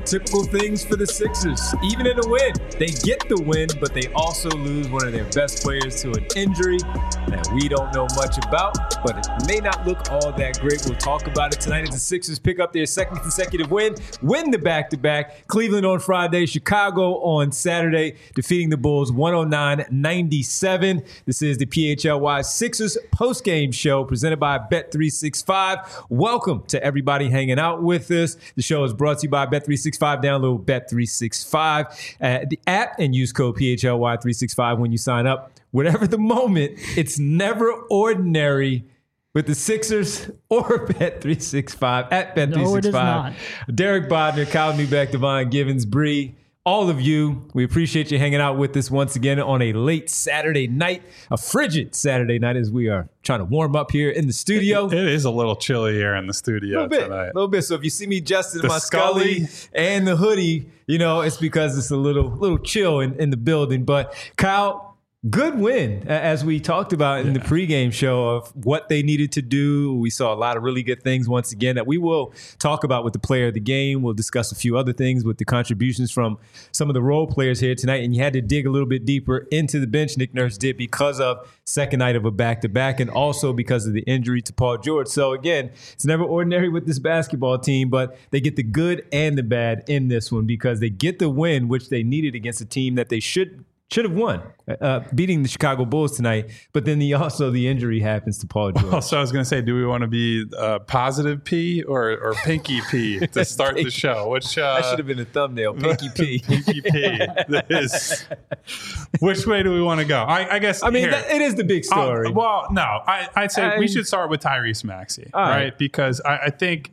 typical things for the Sixers. Even in a win, they get the win, but they also lose one of their best players to an injury that we don't know much about, but it may not look all that great. We'll talk about it tonight as the Sixers pick up their second consecutive win the back-to-back. Cleveland on Friday, Chicago on Saturday, defeating the Bulls 109-97. This is the PHLY Sixers postgame show presented by Bet365. Welcome to everybody hanging out with us. The show is brought to you by Bet365. Download Bet365 the app and use code PHLY365 when you sign up. Whatever the moment, it's never ordinary with the Sixers or Bet365 at Bet365. No, it is not. Derek Bodner, Kyle Newbeck, Devon Givens, Bree, all of you, we appreciate you hanging out with us once again on a late Saturday night, a frigid Saturday night as we are trying to warm up here in the studio. It is a little chilly here in the studio tonight. A little bit. So if you see me adjusting my Scully and the hoodie, you know, it's because it's a little chill in the building. But Kyle, good win, as we talked about in the pregame show of what they needed to do. We saw a lot of really good things once again that we will talk about with the player of the game. We'll discuss a few other things with the contributions from some of the role players here tonight. And you had to dig a little bit deeper into the bench, Nick Nurse did, because of second night of a back-to-back and also because of the injury to Paul George. So again, it's never ordinary with this basketball team, but they get the good and the bad in this one because they get the win, which they needed against a team that they should have won, beating the Chicago Bulls tonight. But then the injury happens to Paul George. So I was going to say, do we want to be positive P or pinky P to start the show? Which that should have been a thumbnail. Pinky P. Pinky P. Which way do we want to go? I guess. I mean, it is the big story. Well, no, I'd say we should start with Tyrese Maxey, right? Because I think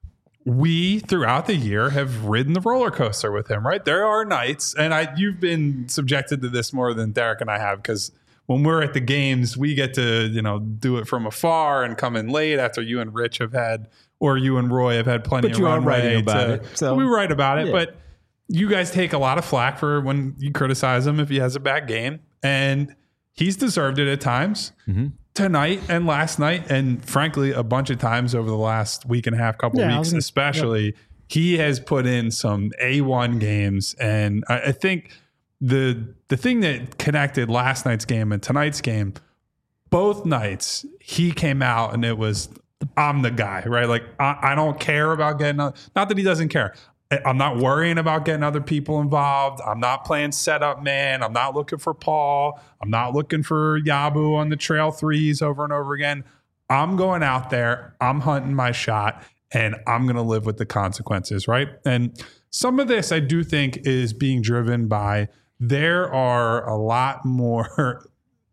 we, throughout the year, have ridden the roller coaster with him, right? There are nights, and you've been subjected to this more than Derek and I have, because when we're at the games, we get to, do it from afar and come in late after you and Rich have had, or you and Roy have had plenty of runway. But you are writing about it. So. We write about it, but you guys take a lot of flack for when you criticize him if he has a bad game, and he's deserved it at times. Mm-hmm. Tonight and last night, and frankly, a bunch of times over the last week and a half, couple of weeks, especially, he has put in some A1 games. And I think the thing that connected last night's game and tonight's game, both nights, he came out and it was, I'm the guy, right? Like, I don't care about getting, not that he doesn't care. I'm not worrying about getting other people involved. I'm not playing setup man. I'm not looking for Paul. I'm not looking for Yabu on the trail threes over and over again. I'm going out there. I'm hunting my shot, and I'm going to live with the consequences, right? And some of this I do think is being driven by there's a lot more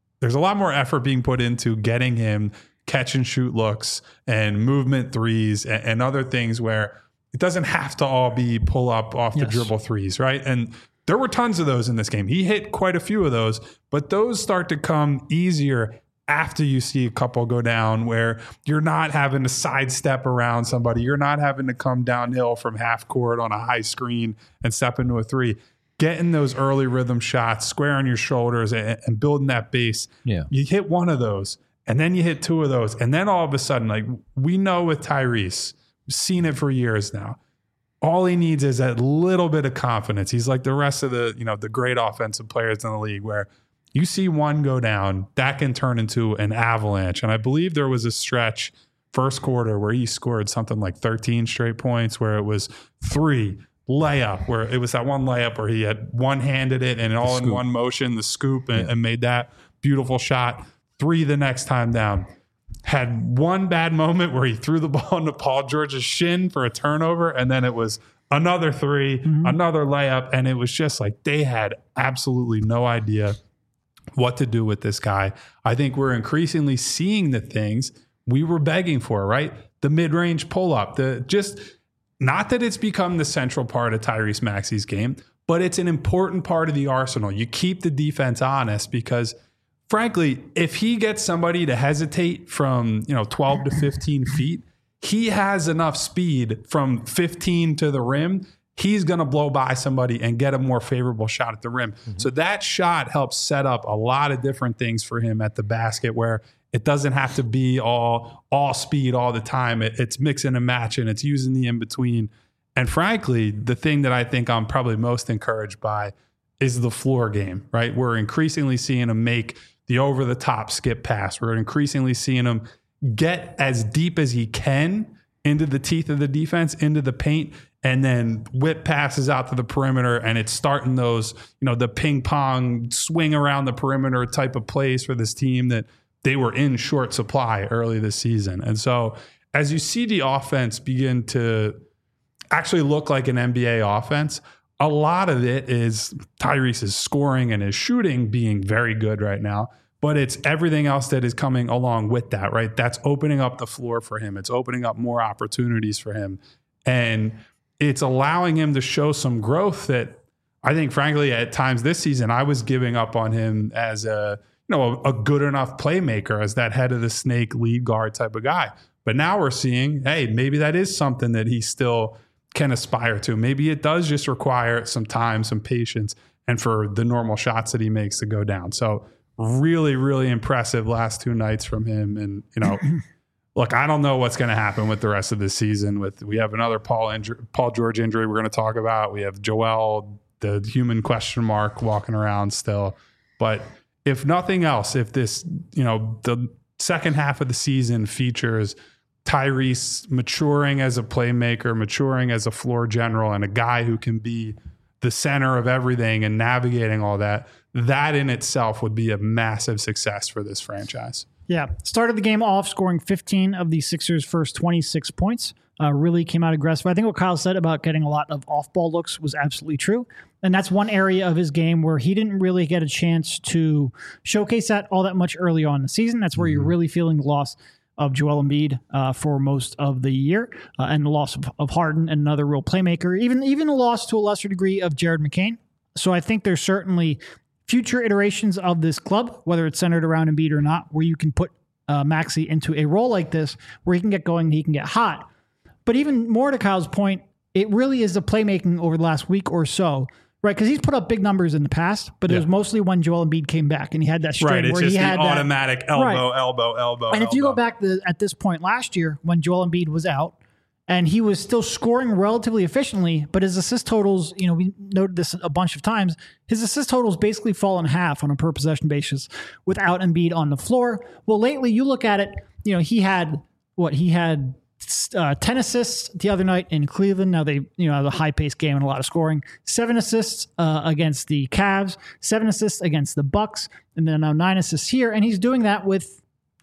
effort being put into getting him catch and shoot looks and movement threes and other things where it doesn't have to all be pull up off the dribble threes, right? And there were tons of those in this game. He hit quite a few of those, but those start to come easier after you see a couple go down where you're not having to sidestep around somebody. You're not having to come downhill from half court on a high screen and step into a three. Getting those early rhythm shots, squaring your shoulders and building that base. Yeah. You hit one of those, and then you hit two of those, and then all of a sudden, like we know with Tyrese, seen it for years now. All he needs is a little bit of confidence. He's like the rest of the great offensive players in the league where you see one go down, that can turn into an avalanche. And I believe there was a stretch first quarter where he scored something like 13 straight points where it was 3 layup, where it was that one layup where he had one-handed it and all in one motion, the scoop, and made that beautiful shot. 3 the next time down. Had one bad moment where he threw the ball into Paul George's shin for a turnover, and then it was another 3, another layup, and it was just like they had absolutely no idea what to do with this guy. I think we're increasingly seeing the things we were begging for, right? The mid-range pull-up, not that it's become the central part of Tyrese Maxey's game, but it's an important part of the arsenal. You keep the defense honest because frankly, if he gets somebody to hesitate from 12 to 15 feet, he has enough speed from 15 to the rim. He's going to blow by somebody and get a more favorable shot at the rim. Mm-hmm. So that shot helps set up a lot of different things for him at the basket where it doesn't have to be all speed all the time. It's mixing and matching. It's using the in-between. And frankly, the thing that I think I'm probably most encouraged by is the floor game, right? We're increasingly seeing him make the over-the-top skip pass. We're increasingly seeing him get as deep as he can into the teeth of the defense, into the paint, and then whip passes out to the perimeter, and it's starting those, the ping pong swing around the perimeter type of plays for this team that they were in short supply early this season. And so as you see the offense begin to actually look like an NBA offense, a lot of it is Tyrese's scoring and his shooting being very good right now, but it's everything else that is coming along with that, right? That's opening up the floor for him. It's opening up more opportunities for him. And it's allowing him to show some growth that I think, frankly, at times this season, I was giving up on him as a good enough playmaker, as that head of the snake lead guard type of guy. But now we're seeing, hey, maybe that is something that he still can aspire to. Maybe it does just require some time, some patience, and for the normal shots that he makes to go down. So really, really impressive last 2 nights from him. And, look, I don't know what's going to happen with the rest of the season. We have another Paul George injury we're going to talk about. We have Joel, the human question mark, walking around still. But if nothing else, if this, the second half of the season features Tyrese maturing as a playmaker, maturing as a floor general, and a guy who can be the center of everything and navigating all that, that in itself would be a massive success for this franchise. Yeah. Started the game off scoring 15 of the Sixers' first 26 points. Really came out aggressive. I think what Kyle said about getting a lot of off-ball looks was absolutely true. And that's one area of his game where he didn't really get a chance to showcase that all that much early on in the season. That's where you're really feeling the loss of Joel Embiid for most of the year, and the loss of Harden and another real playmaker, even a loss to a lesser degree of Jared McCain. So I think there's certainly future iterations of this club, whether it's centered around Embiid or not, where you can put Maxey into a role like this where he can get going and he can get hot. But even more to Kyle's point, it really is the playmaking over the last week or so, right? Because he's put up big numbers in the past, but it was mostly when Joel Embiid came back and he had that string where he had the automatic elbow. And if you go back at this point last year when Joel Embiid was out and he was still scoring relatively efficiently, but his assist totals, we noted this a bunch of times, his assist totals basically fall in half on a per possession basis without Embiid on the floor. Well, lately you look at it, he had 10 assists the other night in Cleveland. Now they, have a high-paced game and a lot of scoring. 7 assists against the Cavs, 7 assists against the Bucks, and then now 9 assists here. And he's doing that with,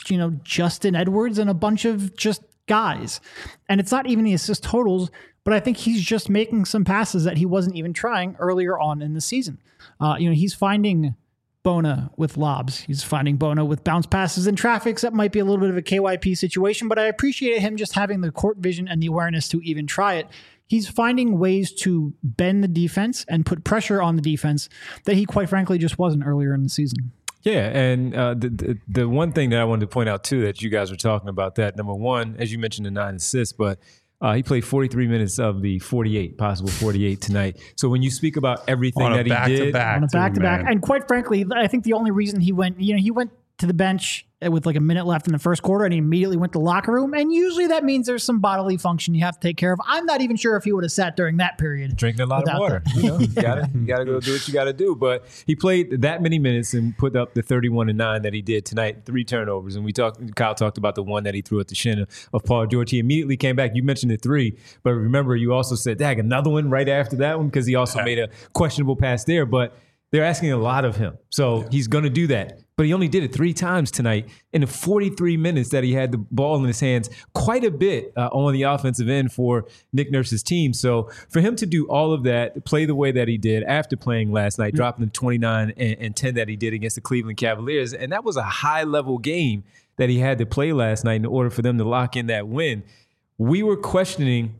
Justin Edwards and a bunch of just guys. And it's not even the assist totals, but I think he's just making some passes that he wasn't even trying earlier on in the season. He's finding Bona with lobs. He's finding Bona with bounce passes and traffics. That might be a little bit of a KYP situation, but I appreciate him just having the court vision and the awareness to even try it. He's finding ways to bend the defense and put pressure on the defense that he, quite frankly, just wasn't earlier in the season. Yeah, and the one thing that I wanted to point out, too, that you guys were talking about that, number one, as you mentioned, the 9 assists, but he played 43 minutes of the possible 48 tonight. So when you speak about everything that he did on a back-to-back, and quite frankly, I think the only reason he went to the bench with like a minute left in the first quarter and he immediately went to the locker room. And usually that means there's some bodily function you have to take care of. I'm not even sure if he would have sat during that period. Drinking a lot of water. You gotta go do what you got to do. But he played that many minutes and put up the 31-9 that he did tonight, 3 turnovers. And Kyle talked about the one that he threw at the shin of Paul George. He immediately came back. You mentioned the 3, but remember you also said, dag, another one right after that one because he also made a questionable pass there. But they're asking a lot of him. So he's going to do that. But he only did it 3 times tonight in the 43 minutes that he had the ball in his hands, quite a bit on the offensive end for Nick Nurse's team. So for him to do all of that, play the way that he did after playing last night, dropping the 29 and 10 that he did against the Cleveland Cavaliers, and that was a high-level game that he had to play last night in order for them to lock in that win. We were questioning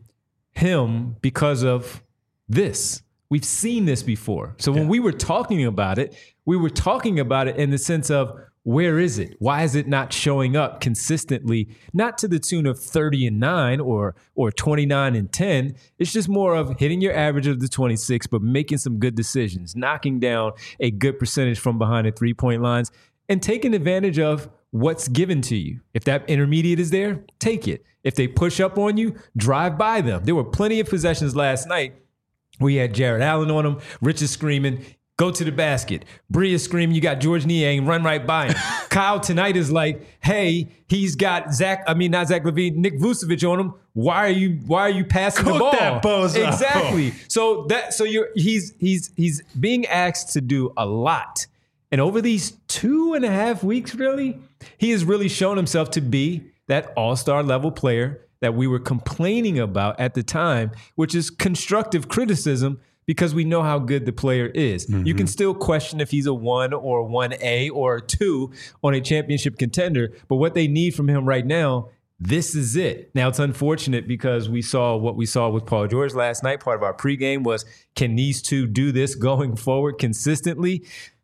him because of this. We've seen this before. So when we were talking about it, we were talking about it in the sense of where is it? Why is it not showing up consistently? Not to the tune of 30-9 or 29-10. It's just more of hitting your average of the 26, but making some good decisions, knocking down a good percentage from behind the 3-point lines, and taking advantage of what's given to you. If that intermediate is there, take it. If they push up on you, drive by them. There were plenty of possessions last night. We had Jared Allen on him. Rich is screaming, go to the basket. Bree is screaming, you got George Niang, run right by him. Kyle tonight is like, hey, he's got not Zach LaVine, Nick Vucevic on him. Why are you passing the ball? That bozo. Exactly. So he's being asked to do a lot. And over these 2.5 weeks, really, he has really shown himself to be that all-star level player that we were complaining about at the time, which is constructive criticism because we know how good the player is. Mm-hmm. You can still question if he's a 1 or a 1A or a 2 on a championship contender, but what they need from him right now, this is it. Now, it's unfortunate because we saw what we saw with Paul George last night. Part of our pregame was, can these two do this going forward consistently?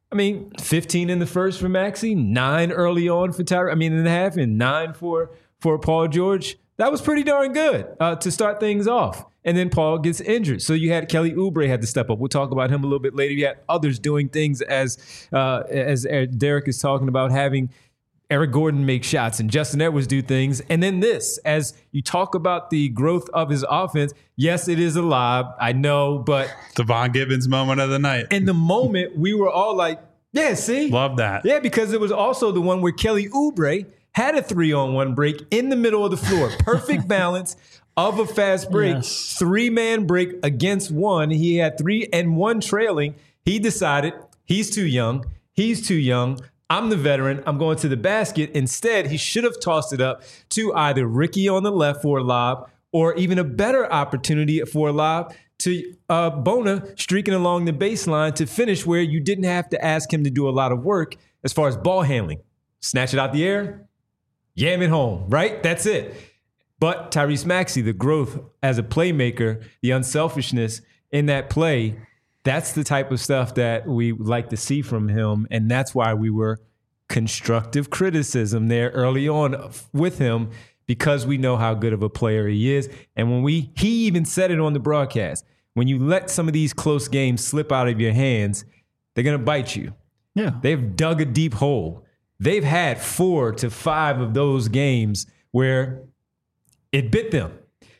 15 in the first for Maxey, 9 early on for in the half, and 9 for Paul George. That was pretty darn good to start things off. And then Paul gets injured. So you had Kelly Oubre had to step up. We'll talk about him a little bit later. You had others doing things as Derek is talking about, having Eric Gordon make shots and Justin Edwards do things. And then this, as you talk about the growth of his offense, yes, it is a lob. I know, but Devon Gibbons moment of the night. In the moment, we were all like, yeah, see? Love that. Yeah, because it was also the one where Kelly Oubre had a 3-on-1 break in the middle of the floor. Perfect balance of a fast break. Yes. 3-man break against 1. He had 3 and 1 trailing. He decided he's too young. I'm the veteran. I'm going to the basket. Instead, he should have tossed it up to either Ricky on the left for a lob or even a better opportunity for a lob to Bona streaking along the baseline to finish where you didn't have to ask him to do a lot of work as far as ball handling. Snatch it out the air, yam it home, right? That's it. But Tyrese Maxey, the growth as a playmaker, the unselfishness in that play, that's the type of stuff that we like to see from him. And that's why we were constructive criticism there early on with him, because we know how good of a player he is. And he even said it on the broadcast, when you let some of these close games slip out of your hands, they're going to bite you. Yeah. They've dug a deep hole. They've had 4 to 5 of those games where it bit them.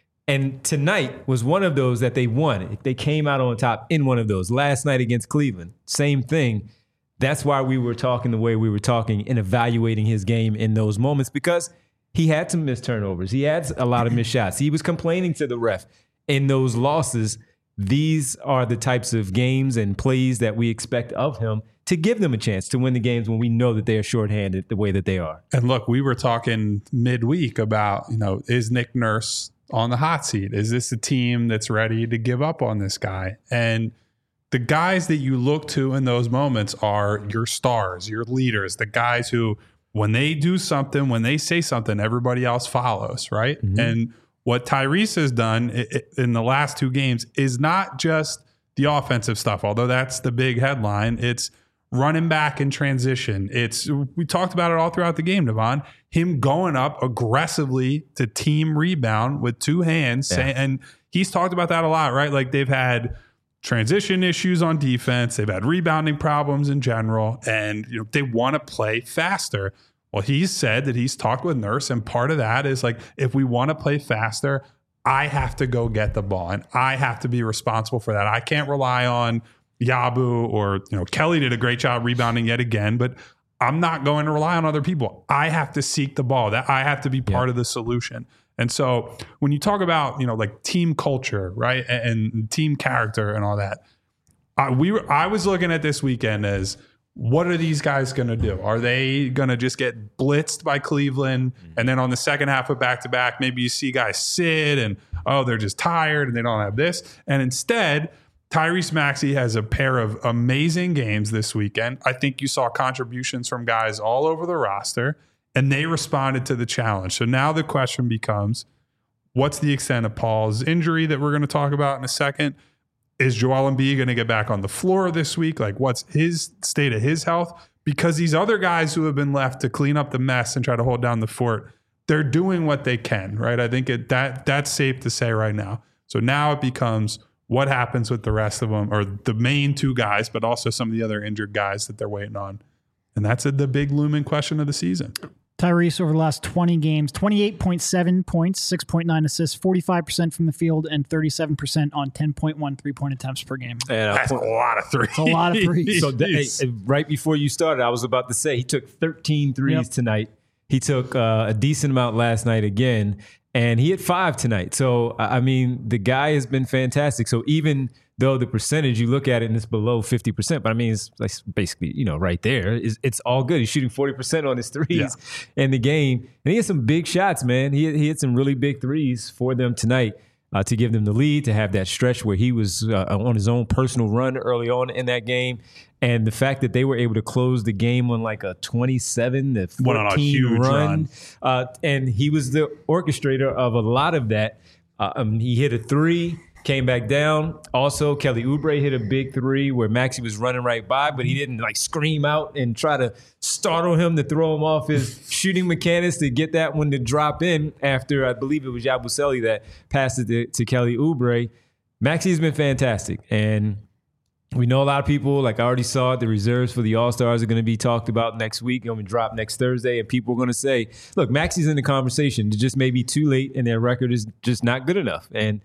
And tonight was one of those that they won. They came out on top in one of those. Last night against Cleveland, same thing. That's why we were talking the way we were talking and evaluating his game in those moments, because he had some missed turnovers. He had a lot of missed shots. He was complaining to the ref in those losses. These are the types of games and plays that we expect of him to give them a chance to win the games when we know that they are shorthanded the way that they are. And look, we were talking midweek about, is Nick Nurse on the hot seat? Is this a team that's ready to give up on this guy? And the guys that you look to in those moments are your stars, your leaders, the guys who, when they do something, when they say something, everybody else follows, right? Mm-hmm. And what Tyrese has done in the last 2 games is not just the offensive stuff, although that's the big headline. It's running back in transition. We talked about it all throughout the game, Devon. Him going up aggressively to team rebound with 2 hands. Yeah. And he's talked about that a lot, right? Like, they've had transition issues on defense. They've had rebounding problems in general. And they want to play faster. Well, he's said that he's talked with Nurse, and part of that is like, if we want to play faster, I have to go get the ball, and I have to be responsible for that. I can't rely on Yabu or Kelly did a great job rebounding yet again, but I'm not going to rely on other people. I have to seek the ball. That I have to be part of the solution. And so when you talk about like team culture, right, and team character and all that, I was looking at this weekend as, what are these guys going to do? Are they going to just get blitzed by Cleveland? And then on the second half of back-to-back, maybe you see guys sit and, they're just tired and they don't have this. And instead, Tyrese Maxey has a pair of amazing games this weekend. I think you saw contributions from guys all over the roster, and they responded to the challenge. So now the question becomes, what's the extent of Paul's injury that we're going to talk about in a second? Is Joel Embiid going to get back on the floor this week? Like, what's his state of his health? Because these other guys who have been left to clean up the mess and try to hold down the fort, they're doing what they can, right? I think that's safe to say right now. So now it becomes, what happens with the rest of them, or the main 2 guys, but also some of the other injured guys that they're waiting on. And that's the big looming question of the season. Tyrese over the last 20 games, 28.7 points, 6.9 assists, 45% from the field, and 37% on 10.1 three-point attempts per game. And that's a lot of threes. It's a lot of threes. So right before you started, I was about to say he took 13 threes tonight. He took a decent amount last night again, and he had 5 tonight. So, I mean, the guy has been fantastic. So even though the percentage, you look at it and it's below 50%, but I mean, it's like basically, right there. It's all good. He's shooting 40% on his threes in the game. And he had some big shots, man. He had some really big threes for them tonight to give them the lead, to have that stretch where he was on his own personal run early on in that game. And the fact that they were able to close the game on like a 27-14 run. And he was the orchestrator of a lot of that. He hit a 3. Came back down. Also, Kelly Oubre hit a big 3 where Maxey was running right by, but he didn't like scream out and try to startle him to throw him off his shooting mechanics to get that one to drop in after, I believe it was Yabusele that passed it to Kelly Oubre. Maxey's been fantastic. And we know a lot of people, like I already saw it, the reserves for the All-Stars are going to be talked about next week. Going to drop next Thursday, and people are going to say, look, Maxey's in the conversation. It just may be too late, and their record is just not good enough. And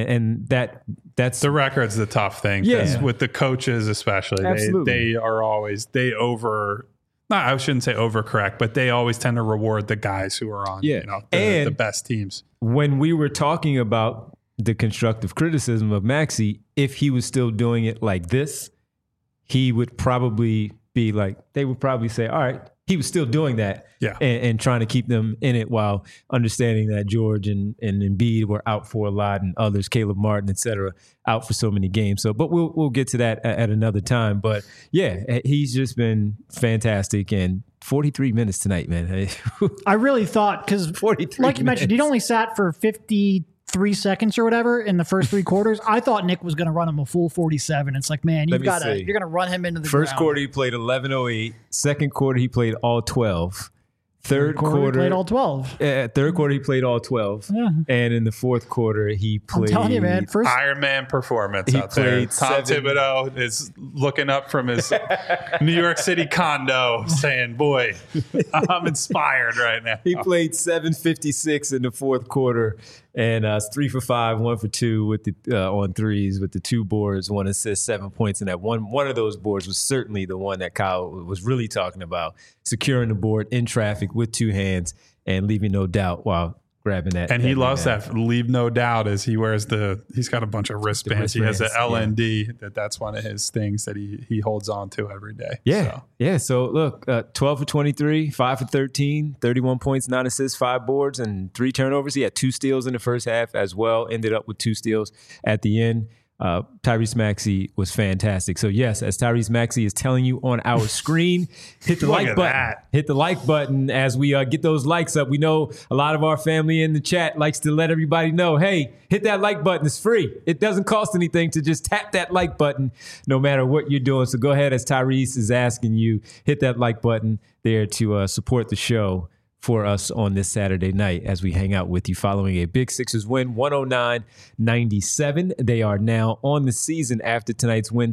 that's the record's the tough thing. Yeah. With the coaches especially, they are always I shouldn't say overcorrect, but they always tend to reward the guys who are on the best teams. When we were talking about the constructive criticism of Maxey, if he was still doing it like this, he would probably be like, they would probably say, all right, he was still doing that and trying to keep them in it while understanding that George and Embiid were out for a lot, and others, Caleb Martin, et cetera, out for so many games. So, but we'll get to that at another time. But yeah, he's just been fantastic, and 43 minutes tonight, man. I really thought, because like you mentioned, he'd only sat for 53 seconds or whatever in the first 3 quarters. I thought Nick was going to run him a full 47. It's like, man, you're going to run him into the first ground. Quarter he played 11:08. Second quarter he played all 12. Third quarter he played all 12. Third quarter he played all 12. Yeah. And in the fourth quarter he played. I'm telling you, man, first Iron Man performance out there. Tom Thibodeau is looking up from his New York City condo saying, boy, I'm inspired right now. He played 7:56 in the fourth quarter, and 3 for 5, 1 for 2 with the on threes with the 2 boards, 1 assist, 7 points. And that one of those boards was certainly the one that Kyle was really talking about, securing the board in traffic with 2 hands and leaving no doubt while grabbing that. And he loves that leave no doubt as he wears he's got a bunch of wristbands. He has an LND that's one of his things that he holds on to every day. Yeah. Yeah. So look, 12 for 23, 5 for 13, 31 points, 9 assists, 5 boards, and 3 turnovers. He had 2 steals in the first half as well, ended up with 2 steals at the end. Tyrese Maxey was fantastic. So yes, as Tyrese Maxey is telling you on our screen, hit the like button. Hit the like button as we get those likes up. We know a lot of our family in the chat likes to let everybody know, hey, hit that like button. It's free. It doesn't cost anything to just tap that like button no matter what you're doing. So go ahead, as Tyrese is asking you, hit that like button there to support the show for us on this Saturday night as we hang out with you following a big Sixers win, 109-97. They are now on the season after tonight's win,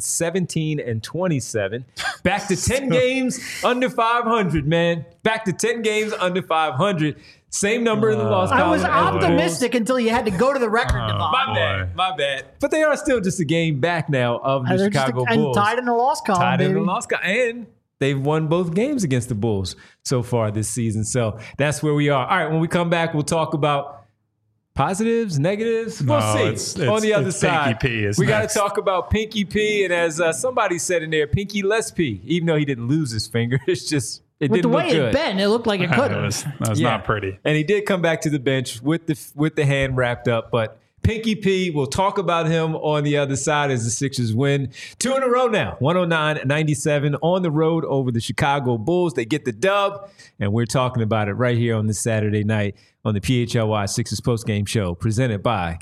17-27. Back to 10 games under 500, man. Back to 10 games under 500. Same number in the loss column. I was optimistic until you had to go to the record. My bad. But they are still just a game back now of the Chicago Bulls. And tied in the loss column, in the loss column. And they've won both games against the Bulls so far this season. So that's where we are. All right, when we come back, we'll talk about positives, negatives. We'll see. On the other side, Pinky P we got to talk about Pinky P. And as somebody said in there, Pinky less P, even though he didn't lose his finger. It's just, it didn't look good. With the way it bent, it looked like it could have. That was not pretty. And he did come back to the bench with the hand wrapped up, but Pinky P, we'll talk about him on the other side as the Sixers win 2 in a row now, 109-97 on the road over the Chicago Bulls. They get the dub, and we're talking about it right here on this Saturday night on the PHLY Sixers postgame show presented by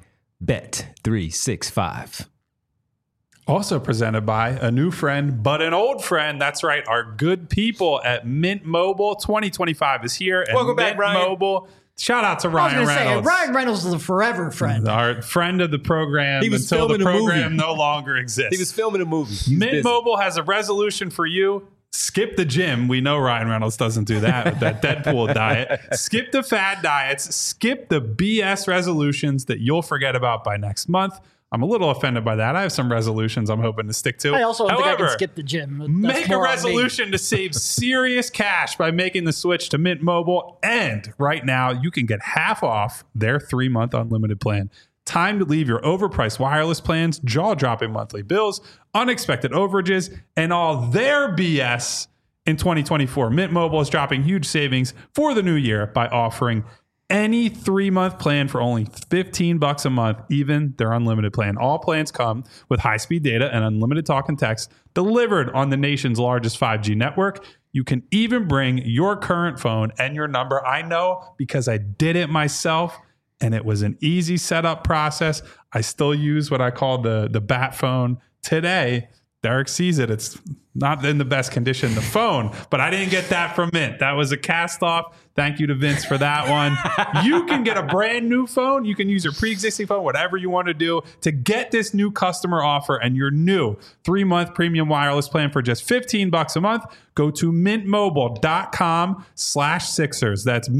Bet365. Also presented by a new friend, but an old friend. That's right, our good people at Mint Mobile. 2025 is here. Welcome back, Ryan. Mobile. Shout out to Ryan Reynolds. Ryan Reynolds is a forever friend. Our friend of the program until the program no longer exists. He was filming a movie. Mint Mobile has a resolution for you. skip the gym. We know Ryan Reynolds doesn't do that with that Deadpool diet. Skip the fad diets. Skip the BS resolutions that you'll forget about by next month. I'm a little offended by that. I have some resolutions I'm hoping to stick to. I also don't think I can skip the gym. That's make a resolution to save serious cash by making the switch to Mint Mobile. And right now, you can get half off their 3-month unlimited plan. Time to leave your overpriced wireless plans, jaw-dropping monthly bills, unexpected overages, and all their BS in 2024. Mint Mobile is dropping huge savings for the new year by offering any 3-month plan for only $15 a month, even their unlimited plan. All plans come with high-speed data and unlimited talk and text delivered on the nation's largest 5G network. You can even bring your current phone and your number. I know because I did it myself, and it was an easy setup process. I still use what I call the Bat phone today. Derek sees it. It's not in the best condition, the phone, but I didn't get that from Mint. That was a cast off. Thank you to Vince for that one. You can get a brand new phone. You can use your pre-existing phone, whatever you want to do to get this new customer offer and your new 3-month premium wireless plan for just $15 a month. Go to mintmobile.com/Sixers. That's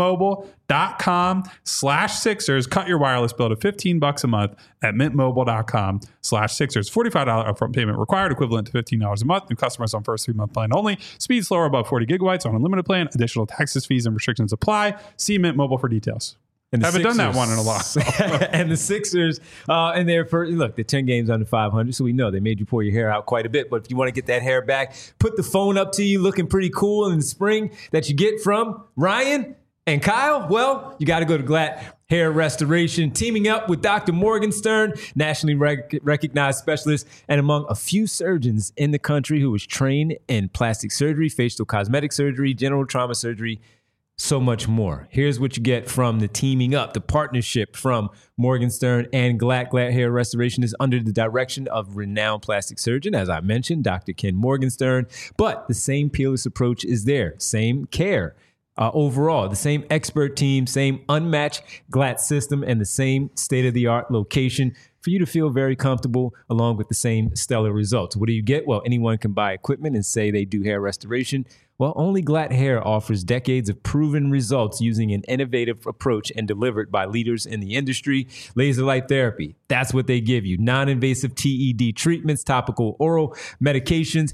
mintmobile.com/Sixers. Cut your wireless bill to $15 a month at mintmobile.com/Sixers. $45 upfront payment required, equivalent to $15 a month. New customers on first 3-month plan only. Speed slower above 40 gigabytes on unlimited plan. Additional taxes, fees, and restrictions apply. See Mint Mobile for details. And haven't done that one in a while. And the Sixers, and they're look, they're 10 games under 500, so we know they made you pull your hair out quite a bit. But if you want to get that hair back, put the phone up to you looking pretty cool in the spring that you get from Ryan and Kyle, well, you got to go to Glatt Hair Restoration, teaming up with Dr. Morgenstern, nationally recognized specialist, and among a few surgeons in the country who was trained in plastic surgery, facial cosmetic surgery, general trauma surgery, so much more. Here's what you get from the teaming up, the partnership from Morgenstern and Glatt. Glatt Hair Restoration is under the direction of renowned plastic surgeon, as I mentioned, Dr. Ken Morgenstern. But the same peerless approach is there, same care. Overall, the same expert team, same unmatched Glatt system, and the same state-of-the-art location for you to feel very comfortable along with the same stellar results. What do you get? Well, anyone can buy equipment and say they do hair restoration. Well, only Glatt Hair offers decades of proven results using an innovative approach and delivered by leaders in the industry. Laser light therapy, that's what they give you. Non-invasive TED treatments, topical oral medications,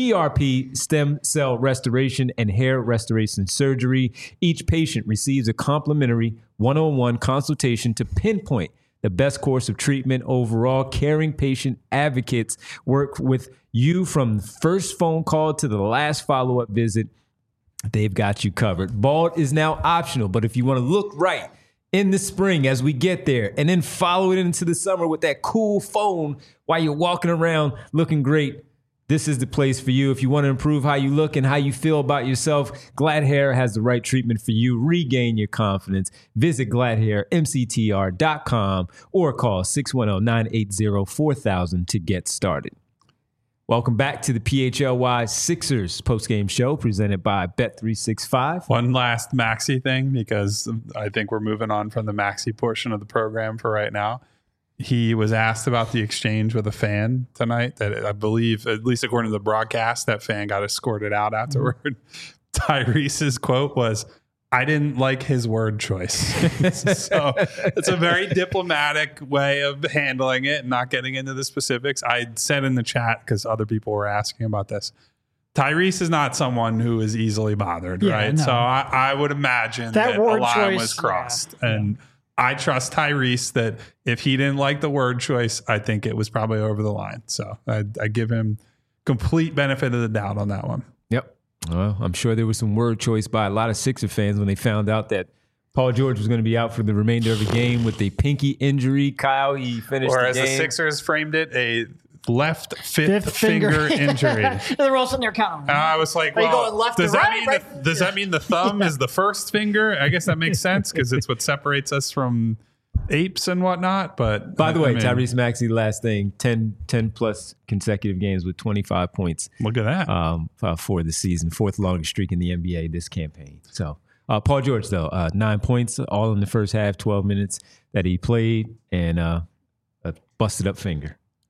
PRP, stem cell restoration, and hair restoration surgery. Each patient receives a complimentary one-on-one consultation to pinpoint the best course of treatment overall. Caring patient advocates work with you from the first phone call to the last follow-up visit. They've got you covered. Bald is now optional, but if you want to look right in the spring as we get there and then follow it into the summer with that cool phone while you're walking around looking great, this is the place for you. If you want to improve how you look and how you feel about yourself, Glatt Hair has the right treatment for you. Regain your confidence. Visit GlattHairMCTR.com or call 610-980-4000 to get started. Welcome back to the PHLY Sixers postgame show presented by Bet365. One last Maxey thing, because I think we're moving on from the Maxey portion of the program for right now. He was asked about the exchange with a fan tonight that I believe, at least according to the broadcast, that fan got escorted out afterward. Mm-hmm. Tyrese's quote was, "I didn't like his word choice." So it's a very diplomatic way of handling it and not getting into the specifics. I said in the chat, because other people were asking about this, Tyrese is not someone who is easily bothered, right? No. So I would imagine that a line was crossed. Yeah. And I trust Tyrese that if he didn't like the word choice, I think it was probably over the line. So I give him complete benefit of the doubt on that one. Yep. Well, I'm sure there was some word choice by a lot of Sixer fans when they found out that Paul George was going to be out for the remainder of the game with a pinky injury. Kyle, he finished the game. Or as the Sixers framed it, a left fifth finger injury. They were all sitting there counting. I was like, well, does that mean the thumb is the first finger? I guess that makes sense because it's what separates us from apes and whatnot. But by the way, Tyrese Maxey, last thing, 10 plus consecutive games with 25 points. Look at that. For the season, fourth longest streak in the NBA this campaign. So Paul George, though, 9 points, all in the first half, 12 minutes that he played, and a busted up finger.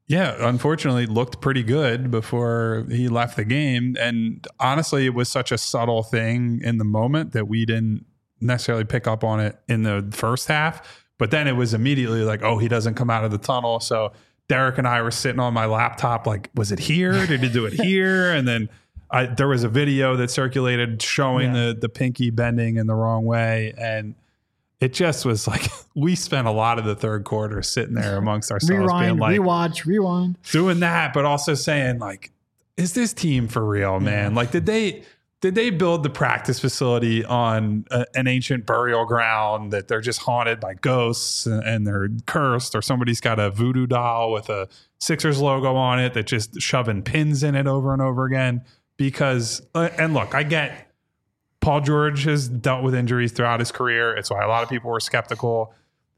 Yeah, unfortunately, looked pretty good before he left the game. And honestly, it was such a subtle thing in the moment that we didn't necessarily pick up on it in the first half. But then it was immediately like, oh, he doesn't come out of the tunnel. So Derek and I were sitting on my laptop like, was it here? Did he do it here? And then there was a video that circulated showing the pinky bending in the wrong way. And it just was like, we spent a lot of the third quarter sitting there amongst ourselves being like, rewind, doing that, but also saying like, is this team for real, man? Like, did they build the practice facility on an ancient burial ground that they're just haunted by ghosts and they're cursed, or somebody's got a voodoo doll with a Sixers logo on it that just shoving pins in it over and over again? Because, and look, I get Paul George has dealt with injuries throughout his career. It's why a lot of people were skeptical.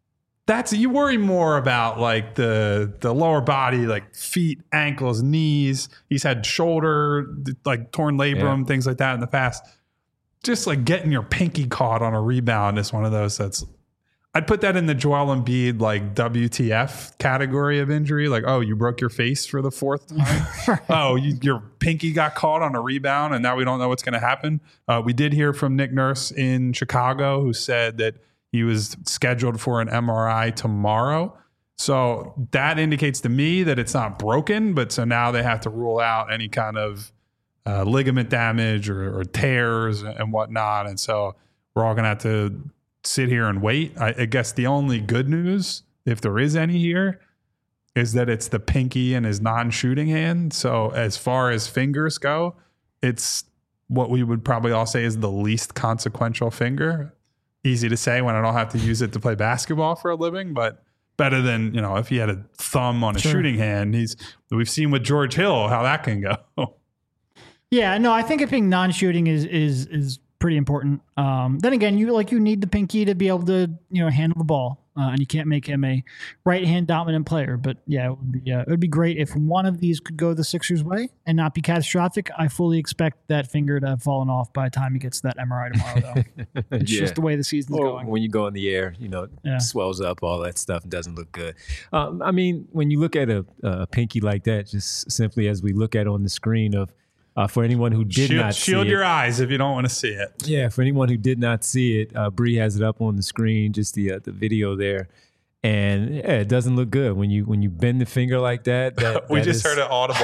You worry more about like the lower body, like feet, ankles, knees. He's had shoulder, like torn labrum, things like that in the past. Just like getting your pinky caught on a rebound is one of those I'd put that in the Joel Embiid like WTF category of injury. Like, oh, you broke your face for the fourth time. Right. Oh, your pinky got caught on a rebound and now we don't know what's going to happen. We did hear from Nick Nurse in Chicago who said that he was scheduled for an MRI tomorrow. So that indicates to me that it's not broken, but so now they have to rule out any kind of ligament damage or tears and whatnot. And so we're all going to have to sit here and wait. I guess the only good news, if there is any here, is that it's the pinky and his non-shooting hand. So as far as fingers go, it's what we would probably all say is the least consequential finger. Easy to say when I don't have to use it to play basketball for a living, but better than, if he had a thumb on a shooting hand. We've seen with George Hill how that can go. Yeah, no, I think it being non-shooting is pretty important. Then again, you need the pinky to be able to handle the ball, and you can't make him a right hand dominant player. But yeah, it would be great if one of these could go the Sixers' way and not be catastrophic. I fully expect that finger to have fallen off by the time he gets to that MRI tomorrow, though. It's just the way the season's going. When you go in the air, it swells up, all that stuff, doesn't look good. I mean, when you look at a pinky like that, just simply as we look at on the screen of. For anyone who did not see it. Shield your eyes if you don't want to see it. Yeah, for anyone who did not see it, Bree has it up on the screen, just the video there. And it doesn't look good when you bend the finger like that. We just heard an audible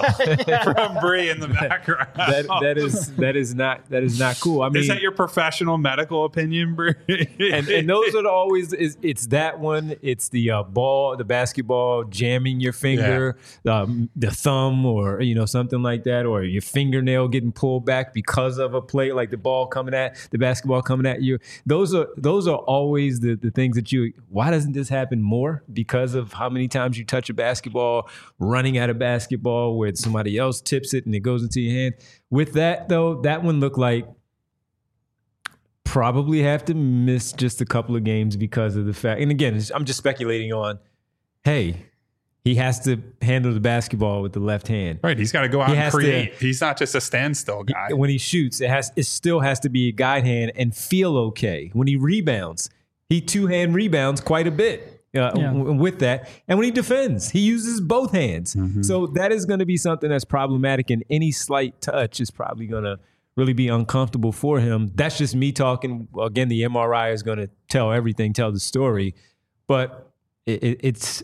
from Bree in the background. That is not cool. I mean, is that your professional medical opinion, Bree? and those are always it's that one. It's the the basketball jamming your finger, the thumb, or something like that, or your fingernail getting pulled back because of a play, like the basketball coming at you. Those are always the things that why doesn't this happen more? Because of how many times you touch a basketball, running at a basketball where somebody else tips it and it goes into your hand. With that, though, that one looked like probably have to miss just a couple of games because of the fact. And again, I'm just speculating on, hey, he has to handle the basketball with the left hand. Right. He's got to go out and create. He's not just a standstill guy. When he shoots, it still has to be a guide hand and feel okay. When he rebounds, he two-hand rebounds quite a bit with that. And when he defends, he uses both hands. Mm-hmm. So that is going to be something that's problematic, and any slight touch is probably going to really be uncomfortable for him. That's just me talking. Again, the MRI is going to tell the story. But it's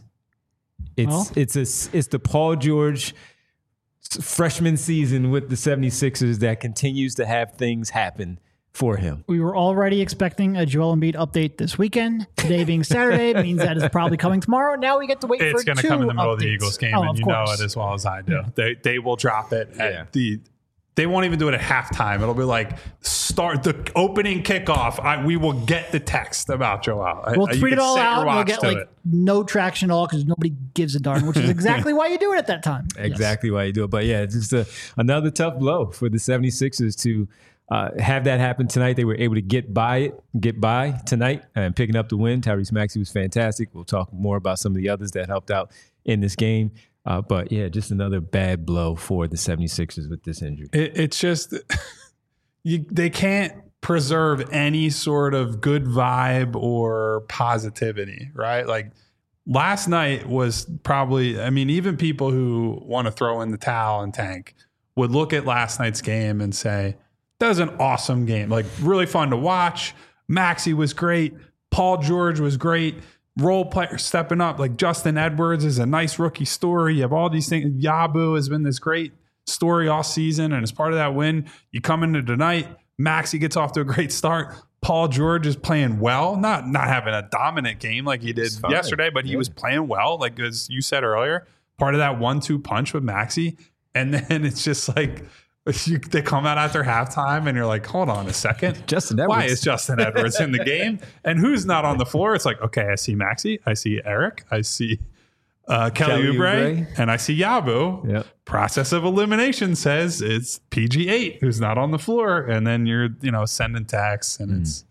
the Paul George freshman season with the 76ers that continues to have things happen for him. We were already expecting a Joel Embiid update this weekend. Today being Saturday means that is probably coming tomorrow. Now we get to wait for 2 It's going to come in the middle of the Eagles game, and you course. know it as well as I do. Yeah. They will drop it at they won't even do it at halftime. It'll be like start the opening kickoff. We will get the text about Joel. We'll tweet it all out. We'll get no traction at all because nobody gives a darn, which is exactly why you do it at that time. Exactly why you do it. But yeah, it's just another tough blow for the 76ers to have that happen tonight. They were able to get by tonight and picking up the win. Tyrese Maxey was fantastic. We'll talk more about some of the others that helped out in this game. But yeah, just another bad blow for the 76ers with this injury. It's just they can't preserve any sort of good vibe or positivity, right? Like last night was probably, I mean, even people who want to throw in the towel and tank would look at last night's game and say, that was an awesome game. Like, really fun to watch. Maxey was great. Paul George was great. Role players stepping up. Like, Justin Edwards is a nice rookie story. You have all these things. Yabu has been this great story all season. And as part of that win, you come into tonight, Maxey gets off to a great start. Paul George is playing well, not having a dominant game like he did yesterday, but he was playing well. Like, as you said earlier, part of that 1-2 punch with Maxey. And then it's just like, they come out after halftime and you're like, hold on a second. Justin Edwards. Why is Justin Edwards in the game? And who's not on the floor? It's like, okay, I see Maxey. I see Eric. I see Kelly Oubre. And I see Yabu. Yep. Process of elimination says it's PG8 who's not on the floor. And then you're, sending texts and it's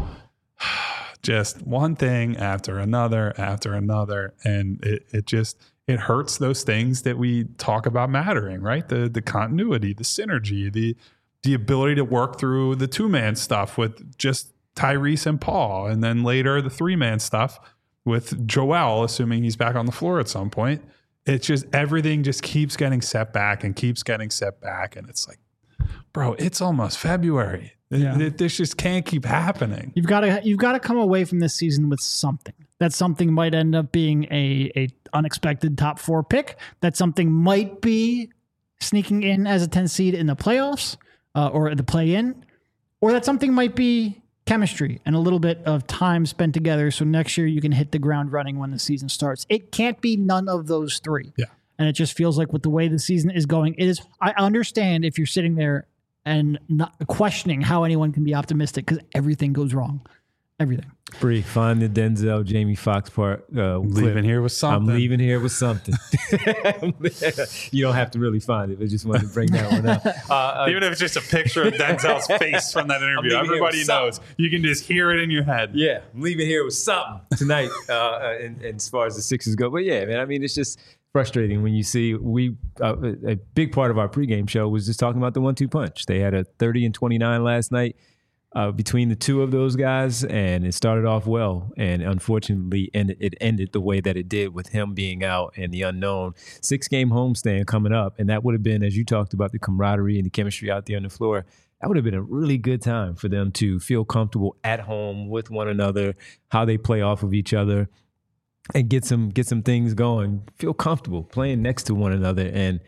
just one thing after another. And it hurts those things that we talk about mattering, right? The continuity, the synergy, the ability to work through the 2-man stuff with just Tyrese and Paul, and then later the 3-man stuff with Joel, assuming he's back on the floor at some point. It's just everything just keeps getting set back, and it's like, bro, it's almost February. Yeah. This just can't keep happening. You've got to come away from this season with something. That something might end up being a unexpected top 4 pick. That something might be sneaking in as a 10 seed in the playoffs or the play-in, or that something might be chemistry and a little bit of time spent together. So next year you can hit the ground running when the season starts. It can't be none of those 3. Yeah. And it just feels like with the way the season is going, I understand if you're sitting there and not questioning how anyone can be optimistic because everything goes wrong. Everything. Bree, find the Denzel Jamie Foxx part. Leaving here with something. I'm leaving here with something. You don't have to really find it, but just wanted to bring that one up. Even if it's just a picture of Denzel's face from that interview, everybody knows. You can just hear it in your head. Yeah, I'm leaving here with something tonight. And as far as the Sixers go, but yeah, man, I mean, it's just frustrating when you see a big part of our pregame show was just talking about the 1-2 punch. They had a 30-29 last night. Between the two of those guys, and it started off well, and unfortunately it ended the way that it did with him being out and the unknown 6-game homestand coming up. And that would have been, as you talked about, the camaraderie and the chemistry out there on the floor. That would have been a really good time for them to feel comfortable at home with one another, how they play off of each other, and get some things going, feel comfortable playing next to one another. And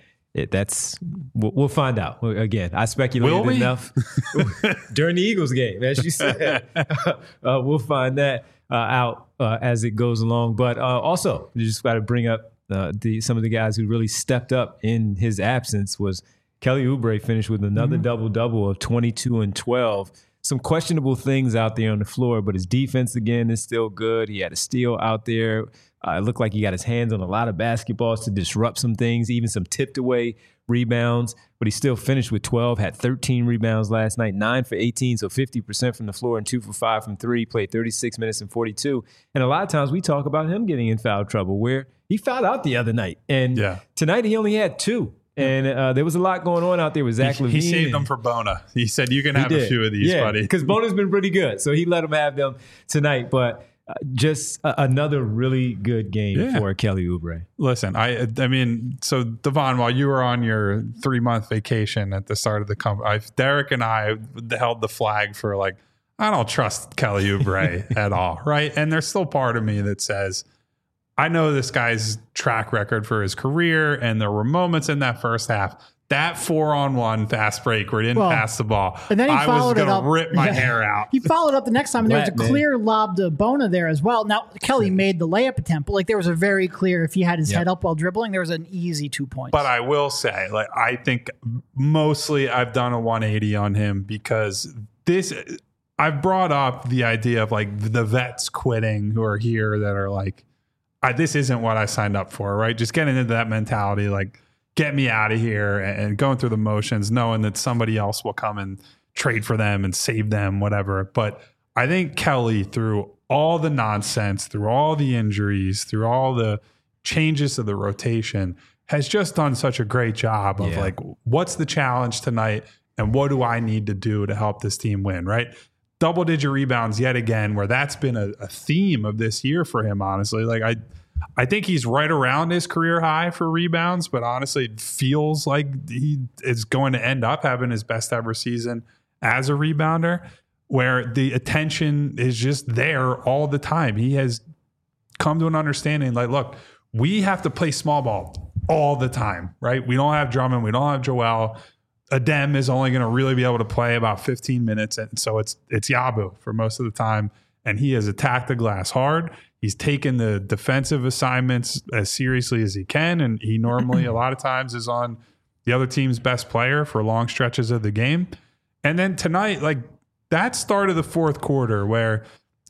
we'll find out. Again, I speculated enough during the Eagles game, as you said. We'll find that out as it goes along. But also, you just got to bring up some of the guys who really stepped up in his absence. Was Kelly Oubre finished with another double-double of 22 and 12. Some questionable things out there on the floor, but his defense, again, is still good. He had a steal out there. It looked like he got his hands on a lot of basketballs to disrupt some things, even some tipped away rebounds, but he still finished with 12, had 13 rebounds last night, 9 for 18, so 50% from the floor and 2 for 5 from 3, played 36 minutes and 42. And a lot of times we talk about him getting in foul trouble where he fouled out the other night. And tonight he only had 2. And there was a lot going on out there with Zach LaVine. He saved them for Bona. He said, you can have a few of these, buddy. Because Bona's been pretty good. So he let him have them tonight. But just another really good game for Kelly Oubre. Listen, I mean, so Devon, while you were on your 3-month vacation at the start of the company, Derek and I held the flag for like, I don't trust Kelly Oubre at all, right? And there's still part of me that says, I know this guy's track record for his career, and there were moments in that first half. That 4-on-1 fast break where he didn't pass the ball, and then he I was going to rip my hair out. He followed up the next time, and there was a clear lob to Bona there as well. Now, Kelly made the layup attempt, but like there was a very clear, if he had his head up while dribbling, there was an easy 2 points. But I will say, like, I think mostly I've done a 180 on him because I've brought up the idea of like the vets quitting who are here that are like, this isn't what I signed up for, right? Just getting into that mentality, like, get me out of here, and going through the motions, knowing that somebody else will come and trade for them and save them, whatever. But I think Kelly, through all the nonsense, through all the injuries, through all the changes to the rotation, has just done such a great job of like, what's the challenge tonight and what do I need to do to help this team win, right? Double-digit rebounds yet again, where that's been a theme of this year for him, honestly. Like, I think he's right around his career high for rebounds, but honestly, it feels like he is going to end up having his best ever season as a rebounder, where the attention is just there all the time. He has come to an understanding like, look, we have to play small ball all the time, right? We don't have Drummond. We don't have Joel. Adem is only going to really be able to play about 15 minutes. And so it's Yabu for most of the time. And he has attacked the glass hard. He's taken the defensive assignments as seriously as he can. And he normally, a lot of times, is on the other team's best player for long stretches of the game. And then tonight, like that start of the fourth quarter where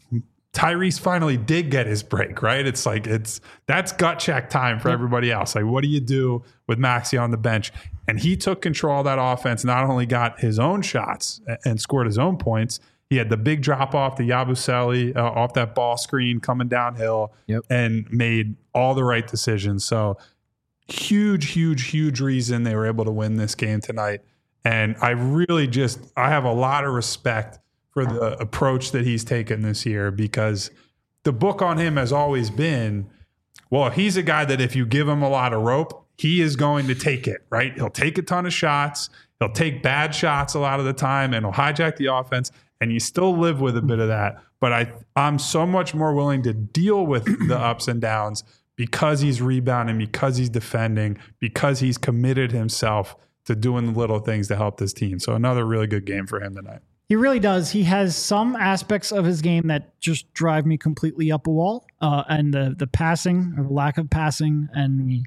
Tyrese finally did get his break, right? It's like, that's gut check time for everybody else. Like, what do you do with Maxey on the bench? And he took control of that offense, not only got his own shots and scored his own points, he had the big drop off to Yabusele off that ball screen coming downhill and made all the right decisions. So huge reason they were able to win this game tonight. And I have a lot of respect for the approach that he's taken this year, because the book on him has always been, well, he's a guy that if you give him a lot of rope, he is going to take it, right? He'll take a ton of shots. He'll take bad shots a lot of the time, and he'll hijack the offense. And you still live with a bit of that. But I'm so much more willing to deal with the ups and downs because he's rebounding, because he's defending, because he's committed himself to doing the little things to help this team. So another really good game for him tonight. He really does. He has some aspects of his game that just drive me completely up a wall. And the passing or the lack of passing and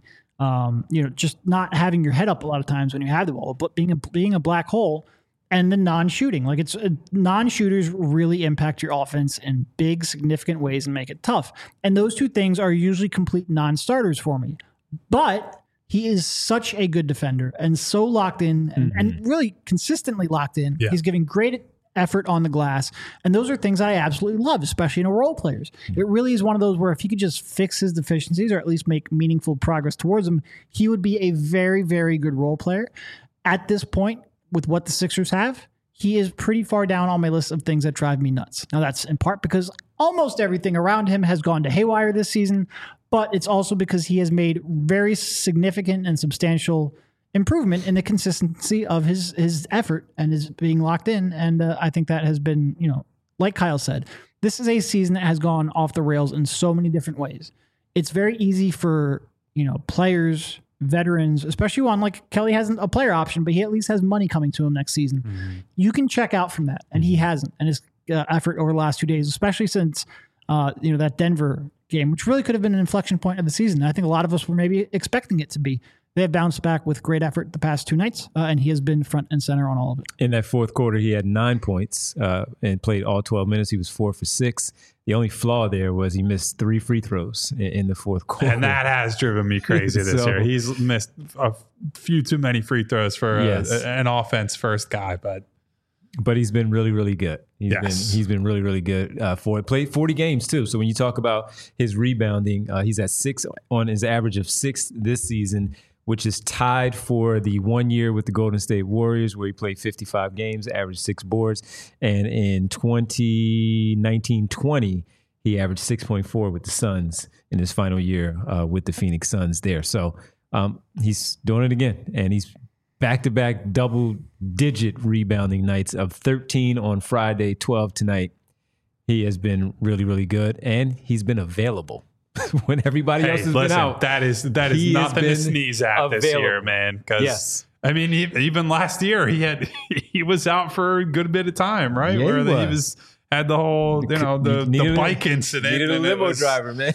just not having your head up a lot of times when you have the ball, but being a black hole. And the non-shooting, like non-shooters really impact your offense in big, significant ways and make it tough. And those two things are usually complete non-starters for me. But he is such a good defender and so locked in and really consistently locked in. Yeah. He's giving great effort on the glass. And those are things I absolutely love, especially in a role players. It really is one of those where if he could just fix his deficiencies or at least make meaningful progress towards them, he would be a very, very good role player. At this point, with what the Sixers have, he is pretty far down on my list of things that drive me nuts. Now, that's in part because almost everything around him has gone to haywire this season, but it's also because he has made very significant and substantial improvement in the consistency of his effort and his being locked in. And I think that has been, like Kyle said, this is a season that has gone off the rails in so many different ways. It's very easy for, players, veterans, especially one like Kelly hasn't a player option, but he at least has money coming to him next season. Mm-hmm. You can check out from that, and he hasn't. And his effort over the last 2 days, especially since that Denver game, which really could have been an inflection point of the season. I think a lot of us were maybe expecting it to be. They have bounced back with great effort the past 2 nights, and he has been front and center on all of it. In that fourth quarter, he had 9 points and played all 12 minutes. He was 4 for 6. The only flaw there was he missed 3 free throws in the fourth quarter. And that has driven me crazy this year. He's missed a few too many free throws for an offense first guy, but he's been really, really good. He's been really, really good for it. Played 40 games too. So when you talk about his rebounding, he's at 6 on his average of 6 this season, which is tied for the 1 year with the Golden State Warriors, where he played 55 games, averaged 6 boards. And in 2019-20, he averaged 6.4 with the Suns in his final year with the Phoenix Suns there. So he's doing it again. And he's back-to-back double-digit rebounding nights of 13 on Friday, 12 tonight. He has been really, really good. And he's been available. When everybody else has been out. That is nothing to sneeze at this year, man. Because I mean, even last year he was out for a good bit of time, right? Yeah, where he had the whole the bike incident. Needed a limo driver, man.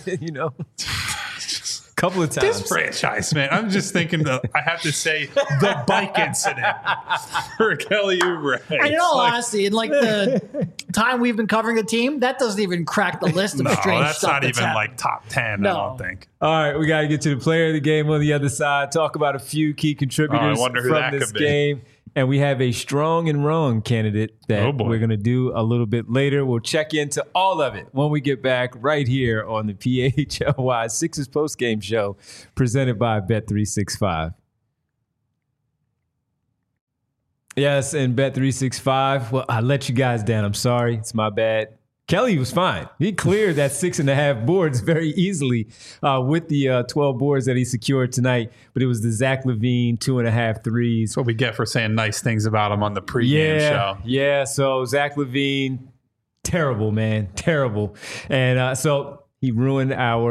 Couple of times. This franchise, man. I'm just thinking that I have to say the bike incident for Kelly Oubre. And in all honesty, in like the time we've been covering the team, that doesn't even crack the list of strange stuff. That's not even like top 10, I don't think. All right, we got to get to the player of the game on the other side. Talk about a few key contributors from this game. And we have a strong and wrong candidate that we're going to do a little bit later. We'll check into all of it when we get back right here on the PHLY Sixers postgame show presented by Bet365. Yes, and Bet365. Well, I let you guys down. I'm sorry. It's my bad. Kelly was fine. He cleared that 6.5 boards very easily with the 12 boards that he secured tonight. But it was the Zach LaVine 2.5 threes. That's what we get for saying nice things about him on the pregame show. Yeah, so Zach LaVine, terrible, man, terrible. And so he ruined